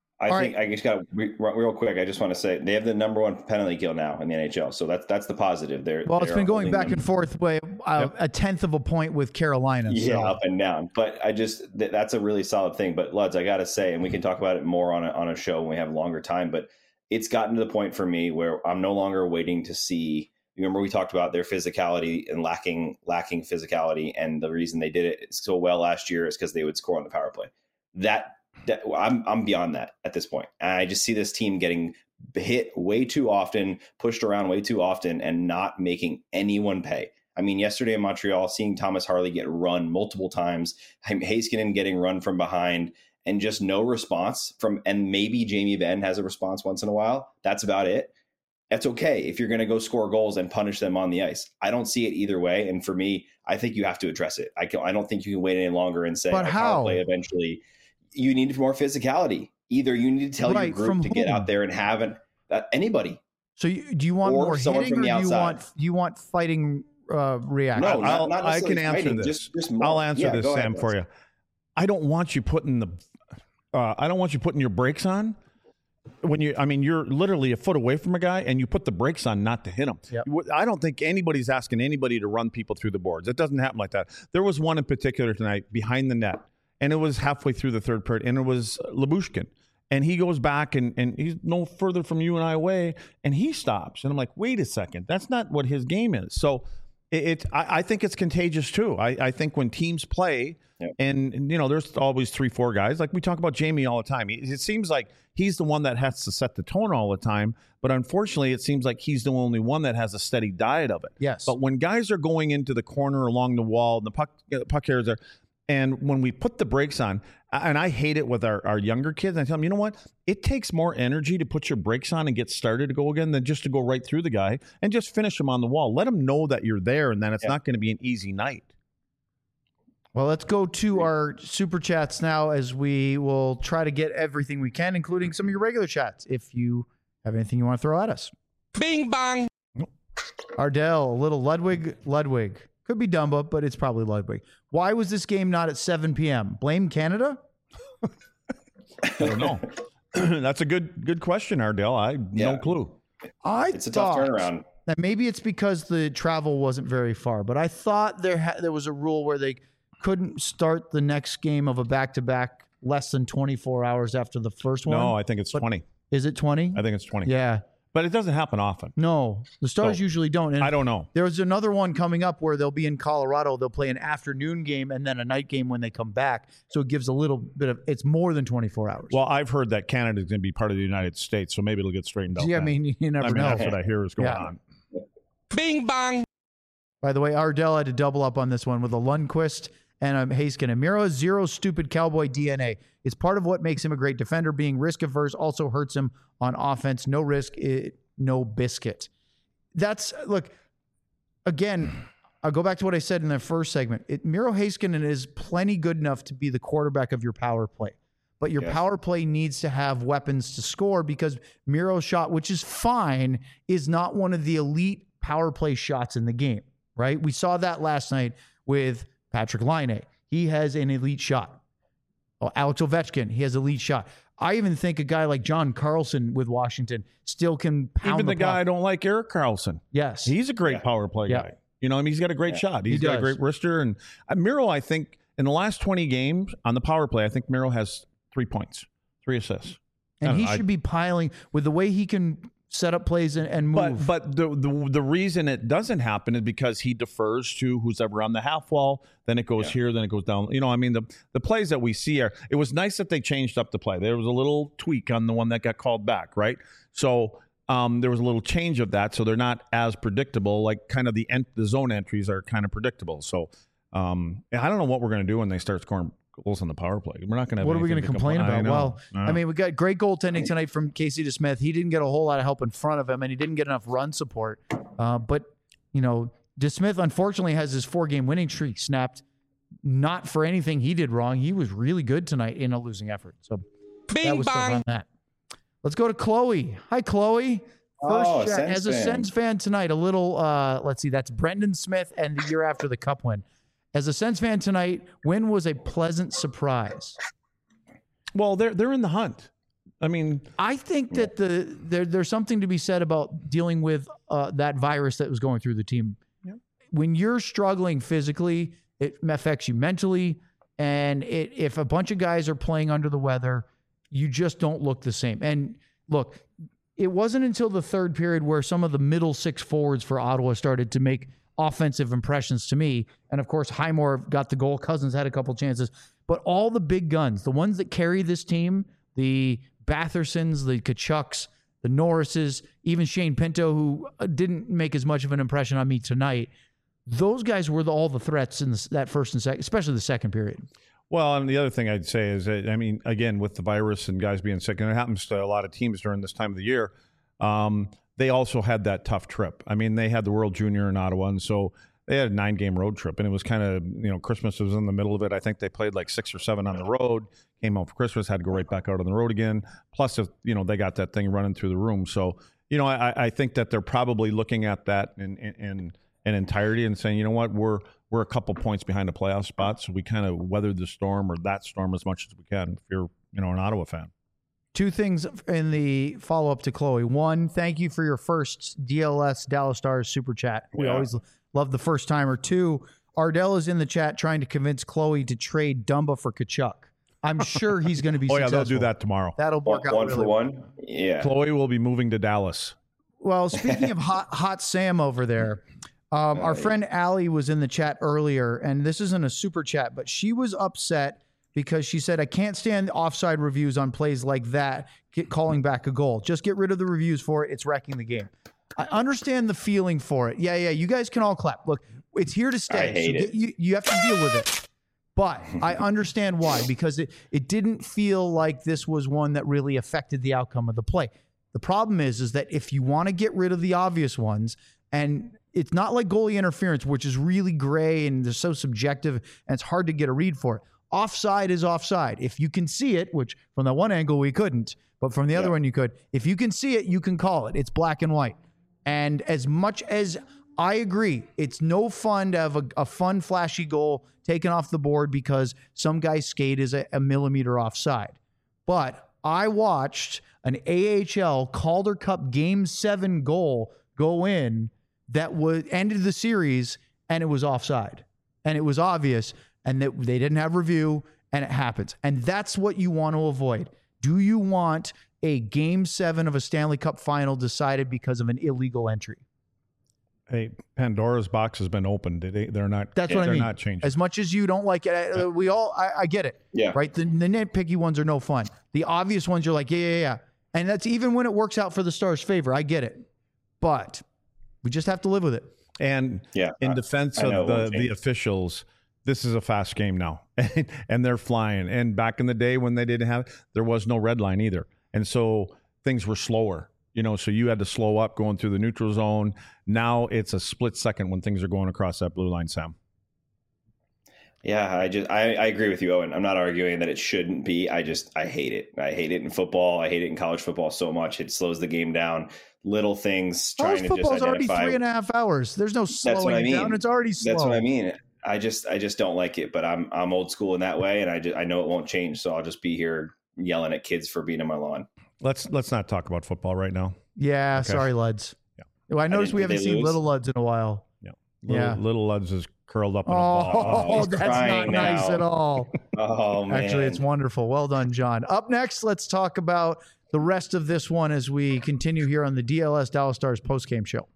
S5: I just got real quick. I just want to say they have the number 1 penalty kill now in the NHL, so that's the positive.
S1: It's been going back and forth by a tenth of a point with Carolina.
S5: Yeah,
S1: so.
S5: up and down. But that's a really solid thing. But Luds, I got to say, and we can talk about it more on a show when we have longer time. But it's gotten to the point for me where I'm no longer waiting to see. Remember, we talked about their physicality and lacking physicality, and the reason they did it so well last year is because they would score on the power play. I'm beyond that at this point. And I just see this team getting hit way too often, pushed around way too often, and not making anyone pay. I mean, yesterday in Montreal, seeing Thomas Harley get run multiple times, Heiskanen getting run from behind, and just no response and maybe Jamie Benn has a response once in a while. That's about it. That's okay if you're going to go score goals and punish them on the ice. I don't see it either way. And for me, I think you have to address it. I don't think you can wait any longer and say,
S1: but how?
S5: Power play eventually. You need more physicality. Either you need to tell your group to get out there and have anybody.
S1: So do you want more hitting, or do you want fighting reaction?
S5: No, not
S4: I can
S5: necessarily
S4: answer
S5: fighting,
S4: this.
S5: just more.
S4: I'll answer this,
S5: go
S4: Sam,
S5: ahead,
S4: for you. I don't want you putting your brakes on when you're literally a foot away from a guy and you put the brakes on not to hit him.
S1: Yep.
S4: I don't think anybody's asking anybody to run people through the boards. It doesn't happen like that. There was one in particular tonight behind the net, and it was halfway through the third period, and it was Lyubushkin. And he goes back, and he's no further from you and I away, and he stops. And I'm like, wait a second, that's not what his game is. So I think it's contagious too. I think when teams play, and there's always 3-4 guys. Like we talk about Jamie all the time. It seems like he's the one that has to set the tone all the time. But unfortunately, it seems like he's the only one that has a steady diet of it.
S1: Yes.
S4: But when guys are going into the corner along the wall, and the puck carriers are, and when we put the brakes on, and I hate it with our younger kids, I tell them, you know what? It takes more energy to put your brakes on and get started to go again than just to go right through the guy and just finish him on the wall. Let him know that you're there and that it's not going to be an easy night.
S1: Well, let's go to our super chats now, as we will try to get everything we can, including some of your regular chats, if you have anything you want to throw at us.
S2: Bing bong.
S1: Ardell, a little Ludwig. Could be Dumba, but it's probably Ludwig. Why was this game not at 7 p.m.? Blame Canada?
S4: I don't know. That's a good question, Ardell. No clue.
S5: It's a tough turnaround.
S1: That maybe it's because the travel wasn't very far, but I thought there was a rule where they couldn't start the next game of a back-to-back less than 24 hours after the first one.
S4: No, I think it's 20.
S1: Is it 20?
S4: I think it's 20.
S1: Yeah.
S4: But it doesn't happen often.
S1: No, the Stars usually don't. And
S4: I don't know.
S1: There's another one coming up where they'll be in Colorado. They'll play an afternoon game and then a night game when they come back. So it gives a little bit of, it's more than 24 hours.
S4: Well, I've heard that Canada is going to be part of the United States, so maybe it'll get straightened out.
S1: Yeah, I mean, you never know.
S4: That's what I hear is going on.
S2: Bing bong.
S1: By the way, Ardell had to double up on this one with a Lundqvist and a Heiskanen. Miro has zero stupid cowboy DNA. It's part of what makes him a great defender. Being risk-averse also hurts him on offense. No risk, no biscuit. Look, again, I'll go back to what I said in the first segment. Miro Heiskanen is plenty good enough to be the quarterback of your power play. But your power play needs to have weapons to score because Miro's shot, which is fine, is not one of the elite power play shots in the game, right? We saw that last night with Patrick Laine. He has an elite shot. Oh, Alex Ovechkin, he has an elite shot. I even think a guy like John Carlson with Washington still can pound
S4: Even the guy
S1: puck.
S4: I don't like, Erik Karlsson.
S1: Yes.
S4: He's a great power play guy. You know, I mean, he's got a great shot. He's got a great wrister. And Miro, I think, in the last 20 games on the power play, I think Miro has 3 points, 3 assists.
S1: And he should be piling with the way he can set up plays and move.
S4: But the reason it doesn't happen is because he defers to who's ever on the half wall. Then it goes here, then it goes down. You know, I mean, the plays that we see are, it was nice that they changed up the play. There was a little tweak on the one that got called back, right? So there was a little change of that. So they're not as predictable. Like kind of the zone entries are kind of predictable. So I don't know what we're going to do when they start scoring goals on the power play. We're not going to have
S1: what are we going to complain about? Well,
S4: I
S1: mean, we got great goaltending tonight from Casey DeSmith. He didn't get a whole lot of help in front of him, and he didn't get enough run support. But, you know, DeSmith, unfortunately, has his 4-game winning streak snapped, not for anything he did wrong. He was really good tonight in a losing effort. So that was stuff on that. Let's go to Chloe. Hi, Chloe. First chat. As a Sens fan tonight, a little, let's see, that's Brendan Smith and the year after the Cup win. As a Sens fan tonight, when was a pleasant surprise?
S4: Well, they're in the hunt. I mean,
S1: I think that there's something to be said about dealing with that virus that was going through the team.
S4: Yeah.
S1: When you're struggling physically, it affects you mentally, and if a bunch of guys are playing under the weather, you just don't look the same. And look, it wasn't until the third period where some of the middle 6 forwards for Ottawa started to make offensive impressions to me. And of course, Highmore got the goal. Cousins had a couple chances. But all the big guns, the ones that carry this team, the Bathersons, the Kachucks, the Norrises, even Shane Pinto, who didn't make as much of an impression on me tonight, those guys were all the threats in that first and second, especially the second period.
S4: Well, and the other thing I'd say is that, I mean, again, with the virus and guys being sick, and it happens to a lot of teams during this time of the year, they also had that tough trip. I mean, they had the World Junior in Ottawa, and so they had a 9-game road trip, and it was kind of, you know, Christmas was in the middle of it. I think they played like 6 or 7 on the road, came home for Christmas, had to go right back out on the road again. Plus, you know, they got that thing running through the room. So, you know, I think that they're probably looking at that in entirety and saying, you know what, we're a couple points behind the playoff spot, so we kind of weathered the storm or that storm as much as we can. If you're, you know, an Ottawa fan.
S1: 2 things in the follow-up to Chloe. 1, thank you for your first DLS Dallas Stars super chat. We always love the first timer. 2, Ardell is in the chat trying to convince Chloe to trade Dumba for Kachuk. I'm sure he's going to be successful.
S4: They'll do that tomorrow.
S1: That'll work out
S5: one
S1: really
S5: for one. Yeah.
S4: Chloe will be moving to Dallas.
S1: Well, speaking of hot Sam over there, our friend Allie was in the chat earlier, and this isn't a super chat, but she was upset because she said, I can't stand offside reviews on plays like that, calling back a goal. Just get rid of the reviews for it. It's wrecking the game. I understand the feeling for it. Yeah, you guys can all clap. Look, it's here to stay.
S5: I hate it.
S1: You have to deal with it. But I understand why, because it didn't feel like this was one that really affected the outcome of the play. The problem is that if you want to get rid of the obvious ones, and it's not like goalie interference, which is really gray and they're so subjective and it's hard to get a read for it. Offside is offside. If you can see it, which from that one angle we couldn't, but from the other one you could. If you can see it, you can call it. It's black and white. And as much as I agree, it's no fun to have a fun, flashy goal taken off the board because some guy's skate is a millimeter offside. But I watched an AHL Calder Cup Game 7 goal go in that ended the series, and it was offside. And it was obvious, and that they didn't have review, and it happens. And that's what you want to avoid. Do you want a Game 7 of a Stanley Cup final decided because of an illegal entry?
S4: Hey, Pandora's box has been opened. They're not.
S1: That's what I mean.
S4: They're not changing.
S1: As much as you don't like it, we all. I get it.
S5: Yeah.
S1: Right. The nitpicky ones are no fun. The obvious ones, you're like, yeah. And that's even when it works out for the Stars' favor. I get it. But We just have to live with it.
S4: And
S5: Yeah,
S4: in defense
S5: I know
S4: of
S5: it won't
S4: the
S5: change.
S4: officials, this is a fast game now, and they're flying. And back in the day when they didn't have, there was no red line either, and so things were slower. So you had to slow up going through the neutral zone. Now it's a split second when things are going across that blue line, Sam.
S5: Yeah, I agree with you, Owen. I'm not arguing that it shouldn't be. I hate it. I hate it in football. I hate it in college football so much. It slows the game down. Little things
S1: College
S5: trying to just
S1: football's already
S5: identify.
S1: 3.5 hours. There's no slowing it down. It's already slow.
S5: That's what I mean. I just don't like it. But I'm old school in that way, and I know it won't change. So I'll just be here yelling at kids for being on my lawn.
S4: Let's not talk about football right now.
S1: Yeah,
S4: Okay.
S1: sorry, Luds.
S4: Yeah.
S1: Well, I noticed we
S5: Did they
S1: haven't seen
S5: lose?
S1: Little Luds in a while.
S4: Little Luds is curled up in a ball.
S1: Oh,
S5: he's
S1: that's not
S5: crying
S1: nice
S5: now.
S1: at all.
S5: Oh man!
S1: Actually, it's wonderful. Well done, John. Up next, let's talk about the rest of this one as we continue here on the DLS Dallas Stars postgame show.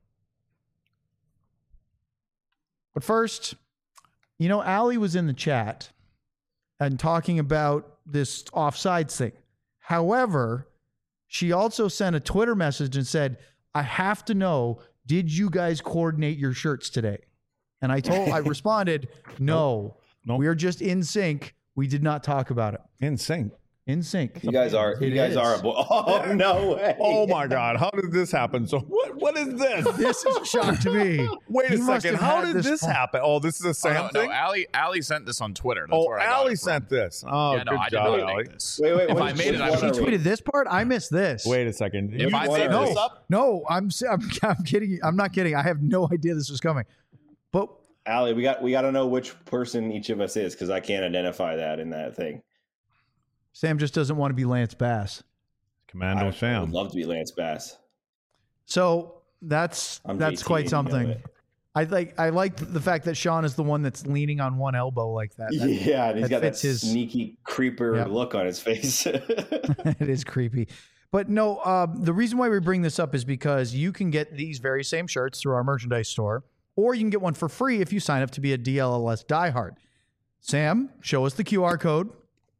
S1: But first, Allie was in the chat and talking about this offsides thing. However, she also sent a Twitter message and said, I have to know, did you guys coordinate your shirts today? And I responded, no.
S4: Nope.
S1: We are just in sync. We did not talk about it.
S4: In sync.
S1: In sync.
S5: You guys are.
S1: It
S5: You guys
S1: is.
S5: are. Oh no way!
S4: Oh my God! How did this happen? So what is this?
S1: This is a shock to me.
S4: Wait
S1: He
S4: a
S1: must
S4: second.
S1: have
S4: How
S1: had
S4: did this
S1: point.
S4: happen? Oh, this is a Sam
S3: No,
S4: thing.
S3: Allie sent this on Twitter. That's where I got
S4: Allie
S3: it from.
S4: sent this. Oh,
S3: Yeah, no,
S4: good
S3: I did
S4: job,
S3: not
S4: Allie.
S3: make this.
S5: Wait.
S3: If
S5: which-
S3: I made it, I
S5: which
S3: would
S5: one
S1: She
S5: are we?
S1: tweeted this part. I missed this.
S4: Wait a second.
S3: If I made
S5: No.
S3: this up,
S1: No, I'm kidding. I'm not kidding. I have no idea this was coming. But
S5: Allie, we got to know which person each of us is because I can't identify that in that thing.
S1: Sam just doesn't want to be Lance Bass.
S4: Commando
S5: I would
S4: Sam.
S5: love to be Lance Bass.
S1: So that's
S5: I'm
S1: quite
S5: JT, you know
S1: something.
S5: it.
S1: I like the fact that Sean is the one that's leaning on one elbow like that.
S5: Yeah, and he's
S1: that
S5: got that
S1: fits his-
S5: sneaky creeper
S1: Yeah.
S5: look on his face.
S1: It is creepy. But no, the reason why we bring this up is because you can get these very same shirts through our merchandise store, or you can get one for free if you sign up to be a DLS diehard. Sam, show us the QR code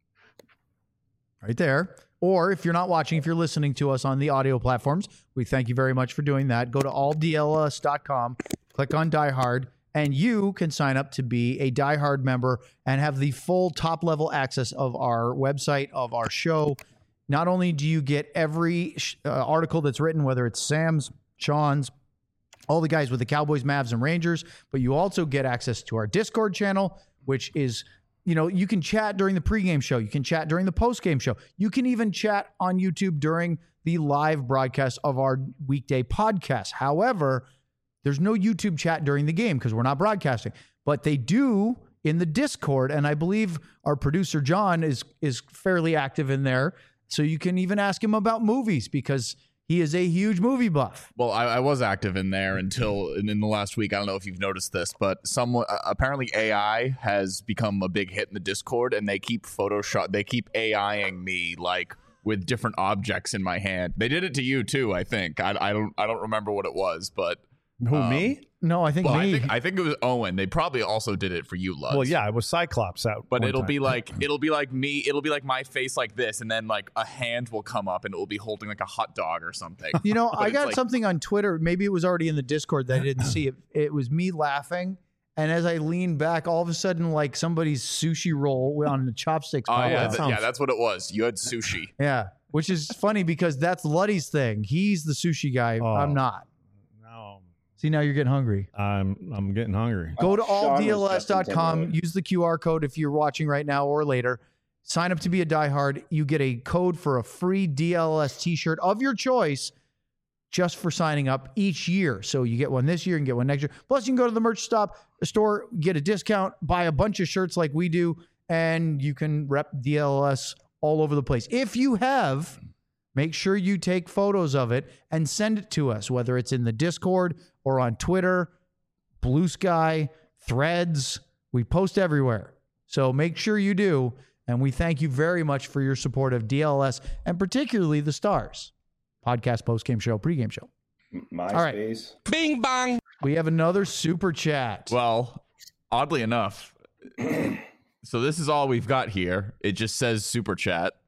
S1: right there. Or if you're not watching, if you're listening to us on the audio platforms, we thank you very much for doing that. Go to alldls.com, click on diehard, and you can sign up to be a diehard member and have the full top level access of our website, of our show. Not only do you get every article that's written, whether it's Sam's, Sean's, all the guys with the Cowboys, Mavs, and Rangers, but you also get access to our Discord channel, which is, you can chat during the pregame show. You can chat during the postgame show. You can even chat on YouTube during the live broadcast of our weekday podcast. However, there's no YouTube chat during the game because we're not broadcasting, but they do in the Discord. And I believe our producer, John, is fairly active in there. So you can even ask him about movies because he is a huge movie buff.
S3: well, I was active in there until in the last week. I don't know if you've noticed this, but someone apparently AI has become a big hit in the Discord, and they keep AIing me like with different objects in my hand. They did it to you too, I think. I don't remember what it was, but
S4: Who, me?
S1: No, I think
S3: well,
S1: me.
S3: I think it was Owen. They probably also did it for you, Lutz.
S4: Well, yeah, it was Cyclops out.
S3: But
S4: one
S3: it'll
S4: time.
S3: be like me. It'll be like my face like this, and then like a hand will come up, and it will be holding like a hot dog or something.
S1: I
S3: it's
S1: got
S3: like-
S1: something on Twitter. Maybe it was already in the Discord that I didn't see it. It was me laughing. And as I leaned back, all of a sudden, like somebody's sushi roll on the chopsticks.
S3: Oh
S1: popped
S3: yeah,
S1: out.
S3: that's what it was. You had sushi.
S1: Yeah. Which is funny because that's Luddy's thing. He's the sushi guy.
S4: Oh.
S1: I'm not.
S4: No,
S1: See, now you're getting hungry.
S4: I'm getting hungry.
S1: Go to
S5: Sean was just
S1: alldls.com.
S5: intimidated.
S1: Use the QR code if you're watching right now or later. Sign up to be a diehard. You get a code for a free DLS t-shirt of your choice just for signing up each year. So you get one this year and get one next year. Plus, you can go to the merch store, get a discount, buy a bunch of shirts like we do, and you can rep DLS all over the place. If you have, make sure you take photos of it and send it to us, whether it's in the Discord or on Twitter, Blue Sky, Threads. We post everywhere. So make sure you do. And we thank you very much for your support of DLS and particularly the Stars podcast, postgame show, pregame show.
S5: MySpace.
S2: Bing bong.
S1: We have another super chat.
S3: Well, oddly enough, so this is all we've got here. It just says super chat,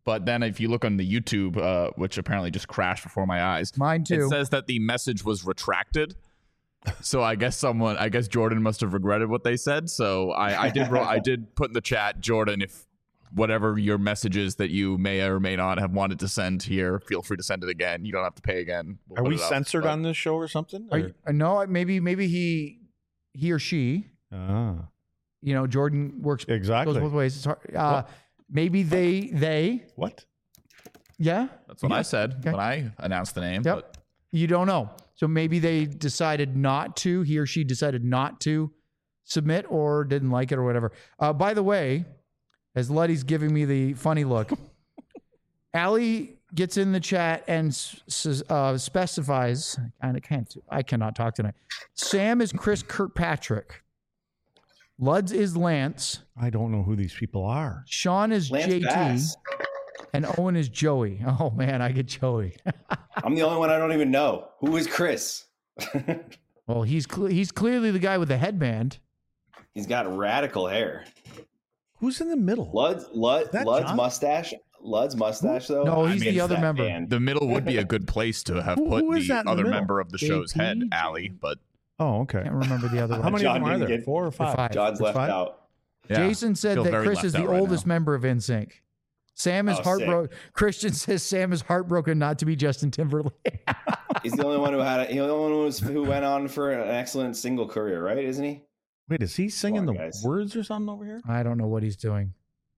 S3: But then if you look on the YouTube, which apparently just crashed before my eyes,
S1: Mine too.
S3: it says that the message was retracted. So I guess Jordan must have regretted what they said. So I did put in the chat, Jordan, if whatever your message is that you may or may not have wanted to send here, feel free to send it again. You don't have to pay again.
S4: Are we censored on this show or something?
S1: No, maybe he or she. Jordan works
S4: Exactly.
S1: goes both ways. It's hard. Maybe they.
S4: What?
S1: Yeah.
S3: That's what I said when I announced the name.
S1: Yep.
S3: But
S1: You don't know. So maybe they decided not to. He or she decided not to submit or didn't like it or whatever. By the way, as Luddy's giving me the funny look, Allie gets in the chat and specifies. I cannot talk tonight. Sam is Chris Kirkpatrick. Luds is Lance.
S4: I don't know who these people are.
S1: Sean is
S5: Lance
S1: JT.
S5: Bass.
S1: And Owen is Joey. Oh, man, I get Joey.
S5: I'm the only one I don't even know. Who is Chris?
S1: Well, he's clearly the guy with the headband.
S5: He's got radical hair.
S4: Who's in the middle?
S5: Lud's
S4: John?
S5: mustache. Lud's mustache, though.
S1: No, he's the other
S5: that
S1: member.
S5: band.
S3: the middle would be a good place to have
S4: Who
S3: put
S4: is
S3: the
S4: that in the
S3: other
S4: middle?
S3: member of the show's head,
S1: JP?
S3: Allie. But
S4: Oh, okay.
S1: Can't remember the other
S4: How
S1: one.
S4: many
S5: John
S4: of them are
S5: didn't
S4: there?
S5: get-
S4: 4 or 5?
S1: Five.
S5: John's left
S4: five?
S5: out.
S3: yeah,
S1: Jason said
S3: feel
S1: that
S3: very
S1: Chris
S3: left
S1: is the
S3: out right
S1: oldest
S3: now.
S1: member of NSYNC. Sam is
S5: Oh,
S1: heartbroken. Christian says Sam is heartbroken not to be Justin Timberlake.
S5: He's the only one who went on for an excellent single career, right? Isn't he?
S4: Wait, is he singing
S5: Come
S4: the
S5: on, guys.
S4: words or something over here?
S1: I don't know what he's doing.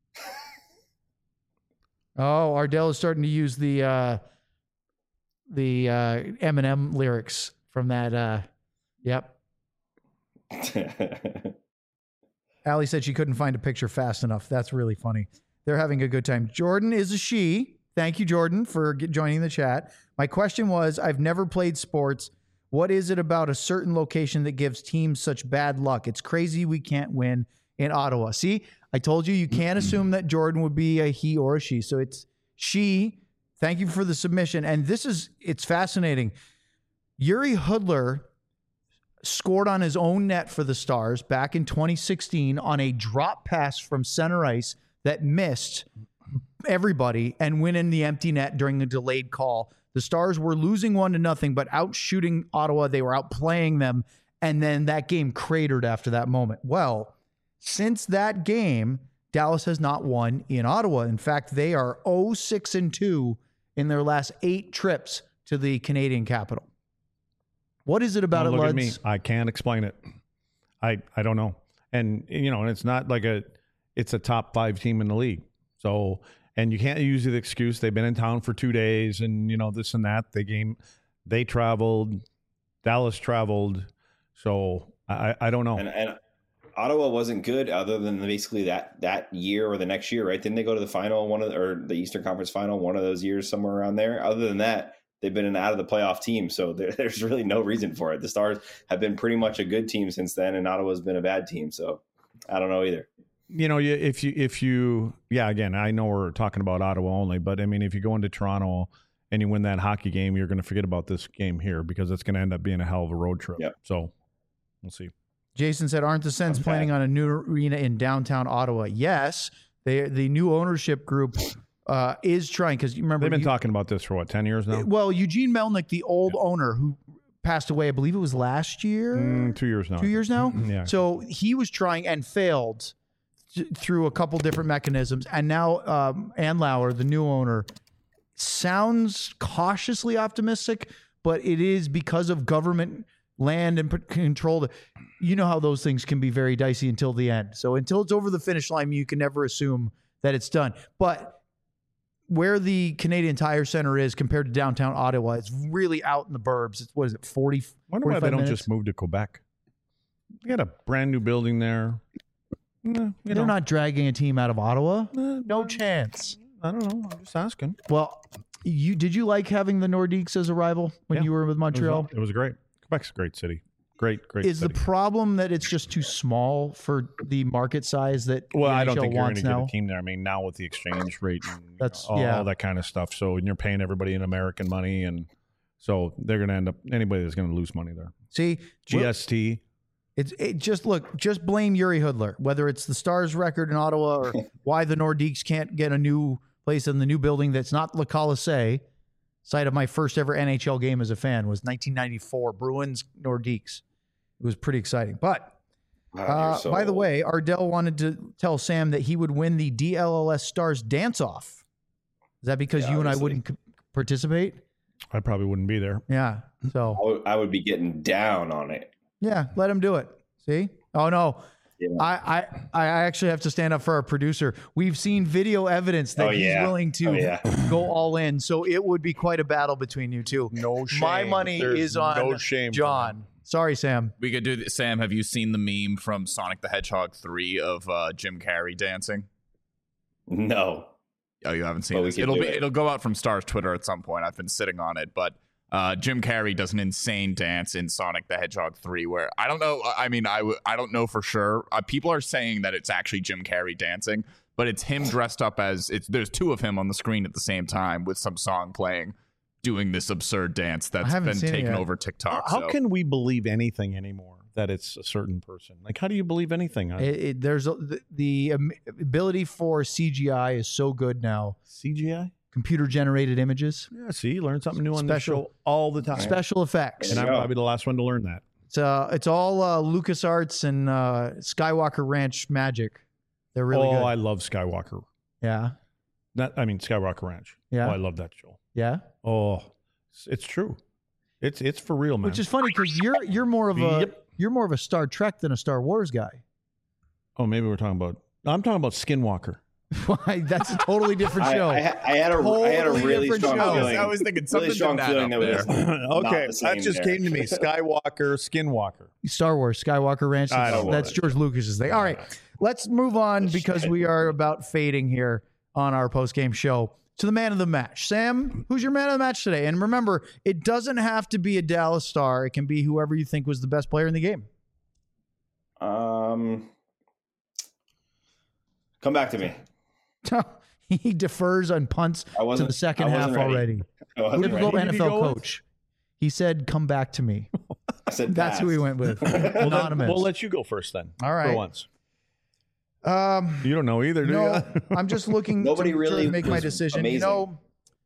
S1: Oh, Ardell is starting to use the Eminem lyrics from that. Yep. Allie said she couldn't find a picture fast enough. That's really funny. They're having a good time. Jordan is a she. Thank you, Jordan, for joining the chat. My question was, I've never played sports. What is it about a certain location that gives teams such bad luck? It's crazy we can't win in Ottawa. See, I told you can't assume that Jordan would be a he or a she. So it's she. Thank you for the submission. And it's fascinating. Yuri Hudler scored on his own net for the Stars back in 2016 on a drop pass from center ice that missed everybody and went in the empty net during the delayed call. The Stars were losing 1-0, but out shooting Ottawa. They were outplaying them. And then that game cratered after that moment. Well, since that game, Dallas has not won in Ottawa. In fact, they are 0-6-2 in their last 8 trips to the Canadian capital. What is it about
S4: Don't
S1: it,
S4: look
S1: Luds?
S4: at me. I can't explain it. I don't know. And and it's not like it's a top 5 team in the league. So, and you can't use the excuse they've been in town for 2 days and this and that. They traveled, Dallas traveled. So I don't know.
S5: And Ottawa wasn't good other than basically that year or the next year, right? Didn't they go to the final or the Eastern Conference final one of those years, somewhere around there? Other than that, they've been an out of the playoff team, so there's really no reason for it. The Stars have been pretty much a good team since then, and Ottawa's been a bad team. So I don't know either.
S4: If you again, I know we're talking about Ottawa only, but I mean, if you go into Toronto and you win that hockey game, you're going to forget about this game here because it's going to end up being a hell of a road trip.
S5: Yep.
S4: So we'll see.
S1: Jason said, aren't the Sens planning on a new arena in downtown Ottawa? Yes. The new ownership group is trying, because you remember
S4: They've been talking about this for 10 years now?
S1: Well, Eugene Melnick, the old owner who passed away, I believe it was last year.
S4: 2 years now.
S1: 2 years now?
S4: Yeah.
S1: So he was trying and failed through a couple different mechanisms. And now Ann Lauer, the new owner, sounds cautiously optimistic, but it is because of government land and control. You know how those things can be very dicey until the end. So until it's over the finish line, you can never assume that it's done. But where the Canadian Tire Center is compared to downtown Ottawa, it's really out in the burbs. It's, what is it, 40,
S4: Wonder why they
S1: 45
S4: don't
S1: minutes?
S4: just move to Quebec. They got a brand new building there.
S1: They're not dragging a team out of Ottawa. No chance.
S4: I don't know. I'm just asking.
S1: Well, did you like having the Nordiques as a rival when you were with Montreal?
S4: It was great. Quebec's a great city. Great
S1: Is
S4: city.
S1: the problem that it's just too small for the market size that
S4: Well,
S1: the
S4: I don't
S1: NHL
S4: think you're going
S1: wants
S4: to get
S1: now?
S4: a team there. I mean, now with the exchange rate and
S1: That's-
S4: all
S1: yeah.
S4: that kind of stuff. So, and you're paying everybody in American money. And so they're going to end up, anybody that's going to lose money there.
S1: See,
S4: GST.
S1: just blame Yuri Hudler, whether it's the Stars record in Ottawa or why the Nordiques can't get a new place in the new building that's not Le Colisée. Site of my first ever NHL game as a fan was 1994 Bruins Nordiques. It was pretty exciting. But by the way, Ardell wanted to tell Sam that he would win the DLLS Stars dance-off. Is that because you and I wouldn't participate?
S4: I probably wouldn't be there.
S1: Yeah. So
S5: I would be getting down on it.
S1: yeah, let him do it. See? Oh no.
S5: Yeah.
S1: I actually have to stand up for our producer. We've seen video evidence that he's willing to go all in. So it would be quite a battle between you two.
S4: No shame.
S1: My money is on
S4: no shame,
S1: John. Sorry, Sam.
S3: We could do this. Sam, have you seen the meme from Sonic the Hedgehog 3 of Jim Carrey dancing?
S5: No.
S3: Oh, you haven't seen it? It'll go out from Star's Twitter at some point. I've been sitting on it, but Jim Carrey does an insane dance in Sonic the Hedgehog 3 where I don't know. I mean, I don't know for sure. People are saying that it's actually Jim Carrey dancing, but it's him dressed up as there's two of him on the screen at the same time with some song playing, doing this absurd dance that's been taken over TikTok.
S4: How can we believe anything anymore that it's a certain person? Like, how do you believe anything?
S1: There's the ability for CGI is so good now.
S4: CGI?
S1: Computer generated images.
S4: Yeah, see, you learn something new on the show all the time.
S1: Special effects.
S4: And I'm probably the last one to learn that.
S1: It's all LucasArts and Skywalker Ranch magic. They're really good.
S4: Oh, I love Skywalker.
S1: Yeah.
S4: Skywalker Ranch.
S1: Yeah.
S4: Oh, I love that show.
S1: Yeah.
S4: Oh, it's true. It's for real, man.
S1: Which is funny because you're more of a Star Trek than a Star Wars guy.
S4: Oh, maybe I'm talking about Skinwalker.
S1: Why? That's a totally different show.
S5: I had a really strong feeling.
S3: I was thinking something
S5: really strong feeling that was
S4: okay, that just came to me. Skywalker, Skinwalker.
S1: Star Wars, Skywalker Ranch. That's George Lucas's thing. All right, let's move on because we are about fading here on our post-game show to the man of the match. Sam, who's your man of the match today? And remember, it doesn't have to be a Dallas Star. It can be whoever you think was the best player in the game.
S5: Come back to me.
S1: He defers and punts to the second half already. Typical NFL coach. He said, "Come back to me."
S5: I said
S1: that's who he went with. Anonymous.
S4: We'll let you go first then.
S1: All right.
S4: For once. You don't know either, do you?
S1: I'm just looking to make my decision.
S5: Amazing.
S1: You know,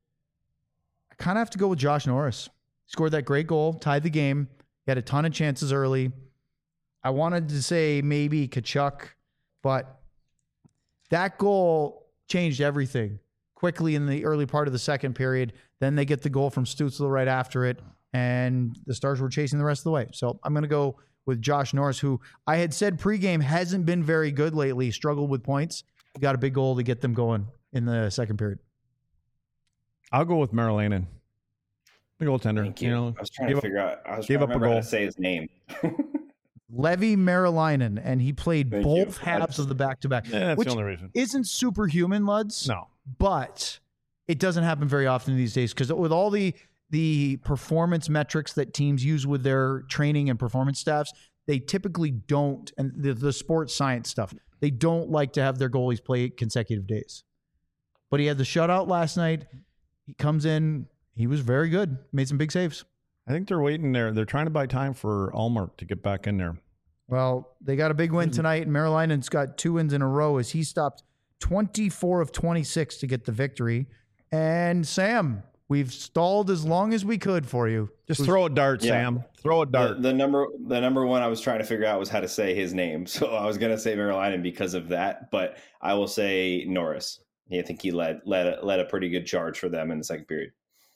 S1: I kind of have to go with Josh Norris. Scored that great goal, tied the game. He had a ton of chances early. I wanted to say maybe Kachuk, but that goal changed everything quickly in the early part of the second period. Then they get the goal from Stützle right after it, and the Stars were chasing the rest of the way. So I'm going to go with Josh Norris, who I had said pregame hasn't been very good lately, struggled with points. He got a big goal to get them going in the second period.
S4: I'll go with Marilainen, the goaltender.
S5: Thank you.
S4: know,
S5: I was trying to figure out. I was trying to remember how to say his name.
S1: Levi Marilainen, and he played both halves of the back-to-back.
S4: Yeah, that's
S1: which
S4: the only reason.
S1: Isn't superhuman, Luds.
S4: No.
S1: But it doesn't happen very often these days because with all the performance metrics that teams use with their training and performance staffs, they typically don't, and the sports science stuff, they don't like to have their goalies play consecutive days. But he had the shutout last night. He comes in. He was very good. Made some big saves.
S4: I think they're waiting there. They're trying to buy time for Ullmark to get back in there.
S1: Well, they got a big win tonight, and Marilainen's got 2 wins in a row as he stopped 24 of 26 to get the victory. And Sam, we've stalled as long as we could for you.
S4: Just throw a dart, Sam. Throw a dart.
S5: The number one I was trying to figure out was how to say his name. So I was going to say Marilainen because of that, but I will say Norris. I think he led a pretty good charge for them in the second period.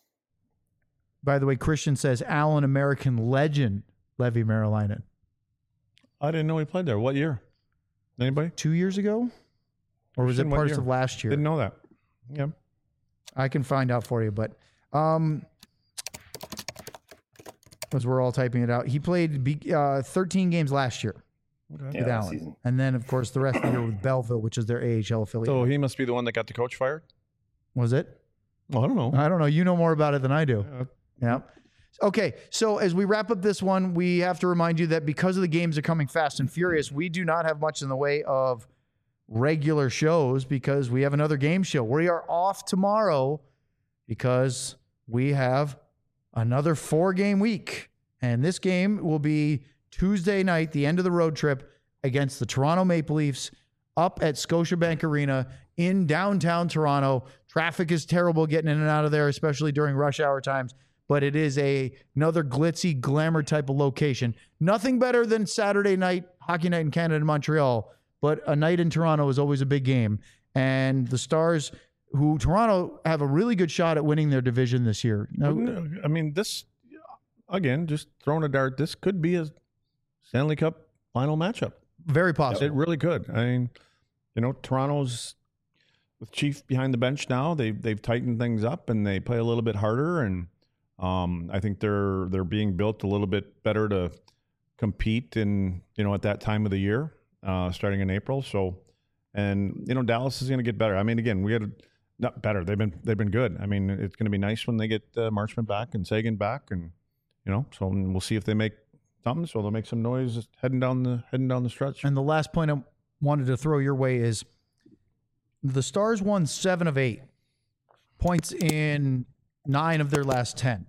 S1: By the way, Christian says Allen American legend Levi Marilainen.
S4: I didn't know he played there. What year? Anybody?
S1: 2 years ago? Or was it parts of last year?
S4: Didn't know that. Yeah.
S1: I can find out for you, but as we're all typing it out, he played 13 games last year with Allen. Season. And then, of course, the rest of the year with Belleville, which is their AHL affiliate.
S4: So he must be the one that got the coach fired?
S1: Was it?
S4: Well, I don't know.
S1: I don't know. You know more about it than I do. Yeah. Okay, so as we wrap up this one, we have to remind you that because of the games are coming fast and furious, we do not have much in the way of regular shows because we have another game show. We are off tomorrow because we have another 4-game week. And this game will be Tuesday night, the end of the road trip against the Toronto Maple Leafs up at Scotiabank Arena in downtown Toronto. Traffic is terrible getting in and out of there, especially during rush hour times. But it is another glitzy, glamour type of location. Nothing better than Saturday night, Hockey Night in Canada in Montreal. But a night in Toronto is always a big game. And the Stars, who Toronto have a really good shot at winning their division this year. Now,
S4: I mean, this, again, just throwing a dart, this could be a Stanley Cup final matchup.
S1: very possible.
S4: It really could. I mean, Toronto's with Chief behind the bench now. They've tightened things up and they play a little bit harder, and I think they're being built a little bit better to compete in at that time of the year, starting in April. So, and Dallas is going to get better. I mean, again, we had not better. They've been good. I mean, it's going to be nice when they get Marchment back and Sagan back, and so we'll see if they make something. So they'll make some noise heading down the stretch.
S1: And the last point I wanted to throw your way is the Stars won 7 of 8 points in 9 of their last 10.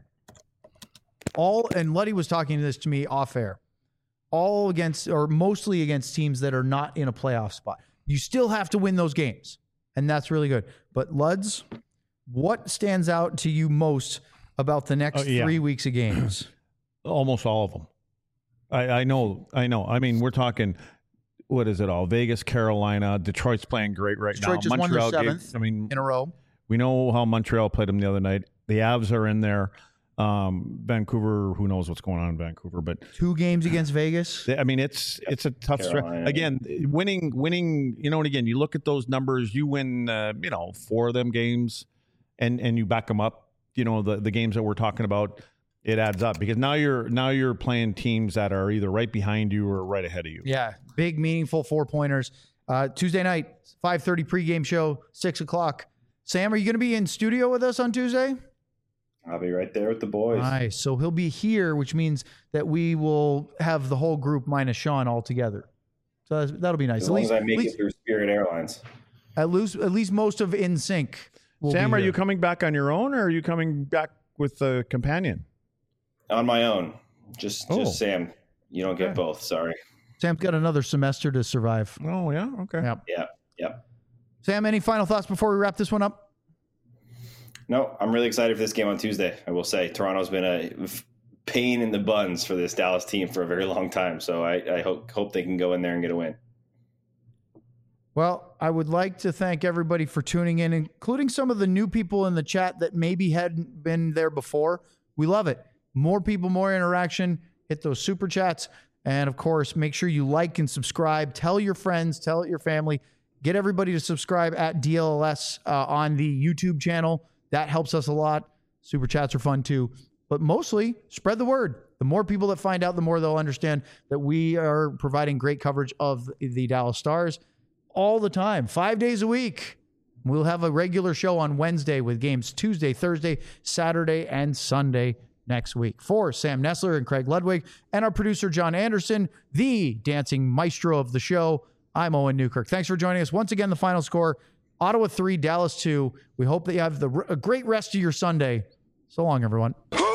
S1: And Luddy was talking to me off air. All against, or mostly against, teams that are not in a playoff spot. You still have to win those games, and that's really good. But Luds, what stands out to you most about the next 3 weeks of games?
S4: Almost all of them. I know. I mean, we're talking, what is it all? Vegas, Carolina, Detroit's playing great right now.
S1: Detroit just
S4: Montreal
S1: won their 7th in a row.
S4: We know how Montreal played them the other night. The Avs are in there. Vancouver, who knows what's going on in Vancouver, but
S1: 2 games against Vegas.
S4: I mean, it's a tough stretch. Again, winning, and again, you look at those numbers, you win, 4 of them games and you back them up, the games that we're talking about, it adds up because now you're playing teams that are either right behind you or right ahead of you.
S1: Yeah. Big, meaningful 4-pointers. Tuesday night, 5:30 pregame show, 6:00. Sam, are you going to be in studio with us on Tuesday?
S5: I'll be right there with the boys.
S1: Nice. So he'll be here, which means that we will have the whole group minus Sean all together. So that'll be nice.
S5: As long as I make it through Spirit Airlines.
S1: At least most of In Sync.
S4: Sam, are you coming back on your own, or are you coming back with a companion?
S5: On my own. Just Sam. You don't get both. Sorry.
S1: Sam's got another semester to survive.
S4: Oh, yeah? Okay.
S5: Yep.
S1: Sam, any final thoughts before we wrap this one up?
S5: No, I'm really excited for this game on Tuesday. I will say Toronto's been a pain in the buns for this Dallas team for a very long time. So I hope they can go in there and get a win.
S1: Well, I would like to thank everybody for tuning in, including some of the new people in the chat that maybe hadn't been there before. We love it. More people, more interaction. Hit those super chats. And, of course, make sure you like and subscribe. Tell your friends. Tell your family. Get everybody to subscribe at DLS on the YouTube channel. That helps us a lot. Super chats are fun too. But mostly, spread the word. The more people that find out, the more they'll understand that we are providing great coverage of the Dallas Stars all the time, 5 days a week. We'll have a regular show on Wednesday with games Tuesday, Thursday, Saturday, and Sunday next week. For Sam Nessler and Craig Ludwig and our producer, John Anderson, the dancing maestro of the show, I'm Owen Newkirk. Thanks for joining us. Once again, the final score, Ottawa 3, Dallas 2. We hope that you have a great rest of your Sunday. So long, everyone.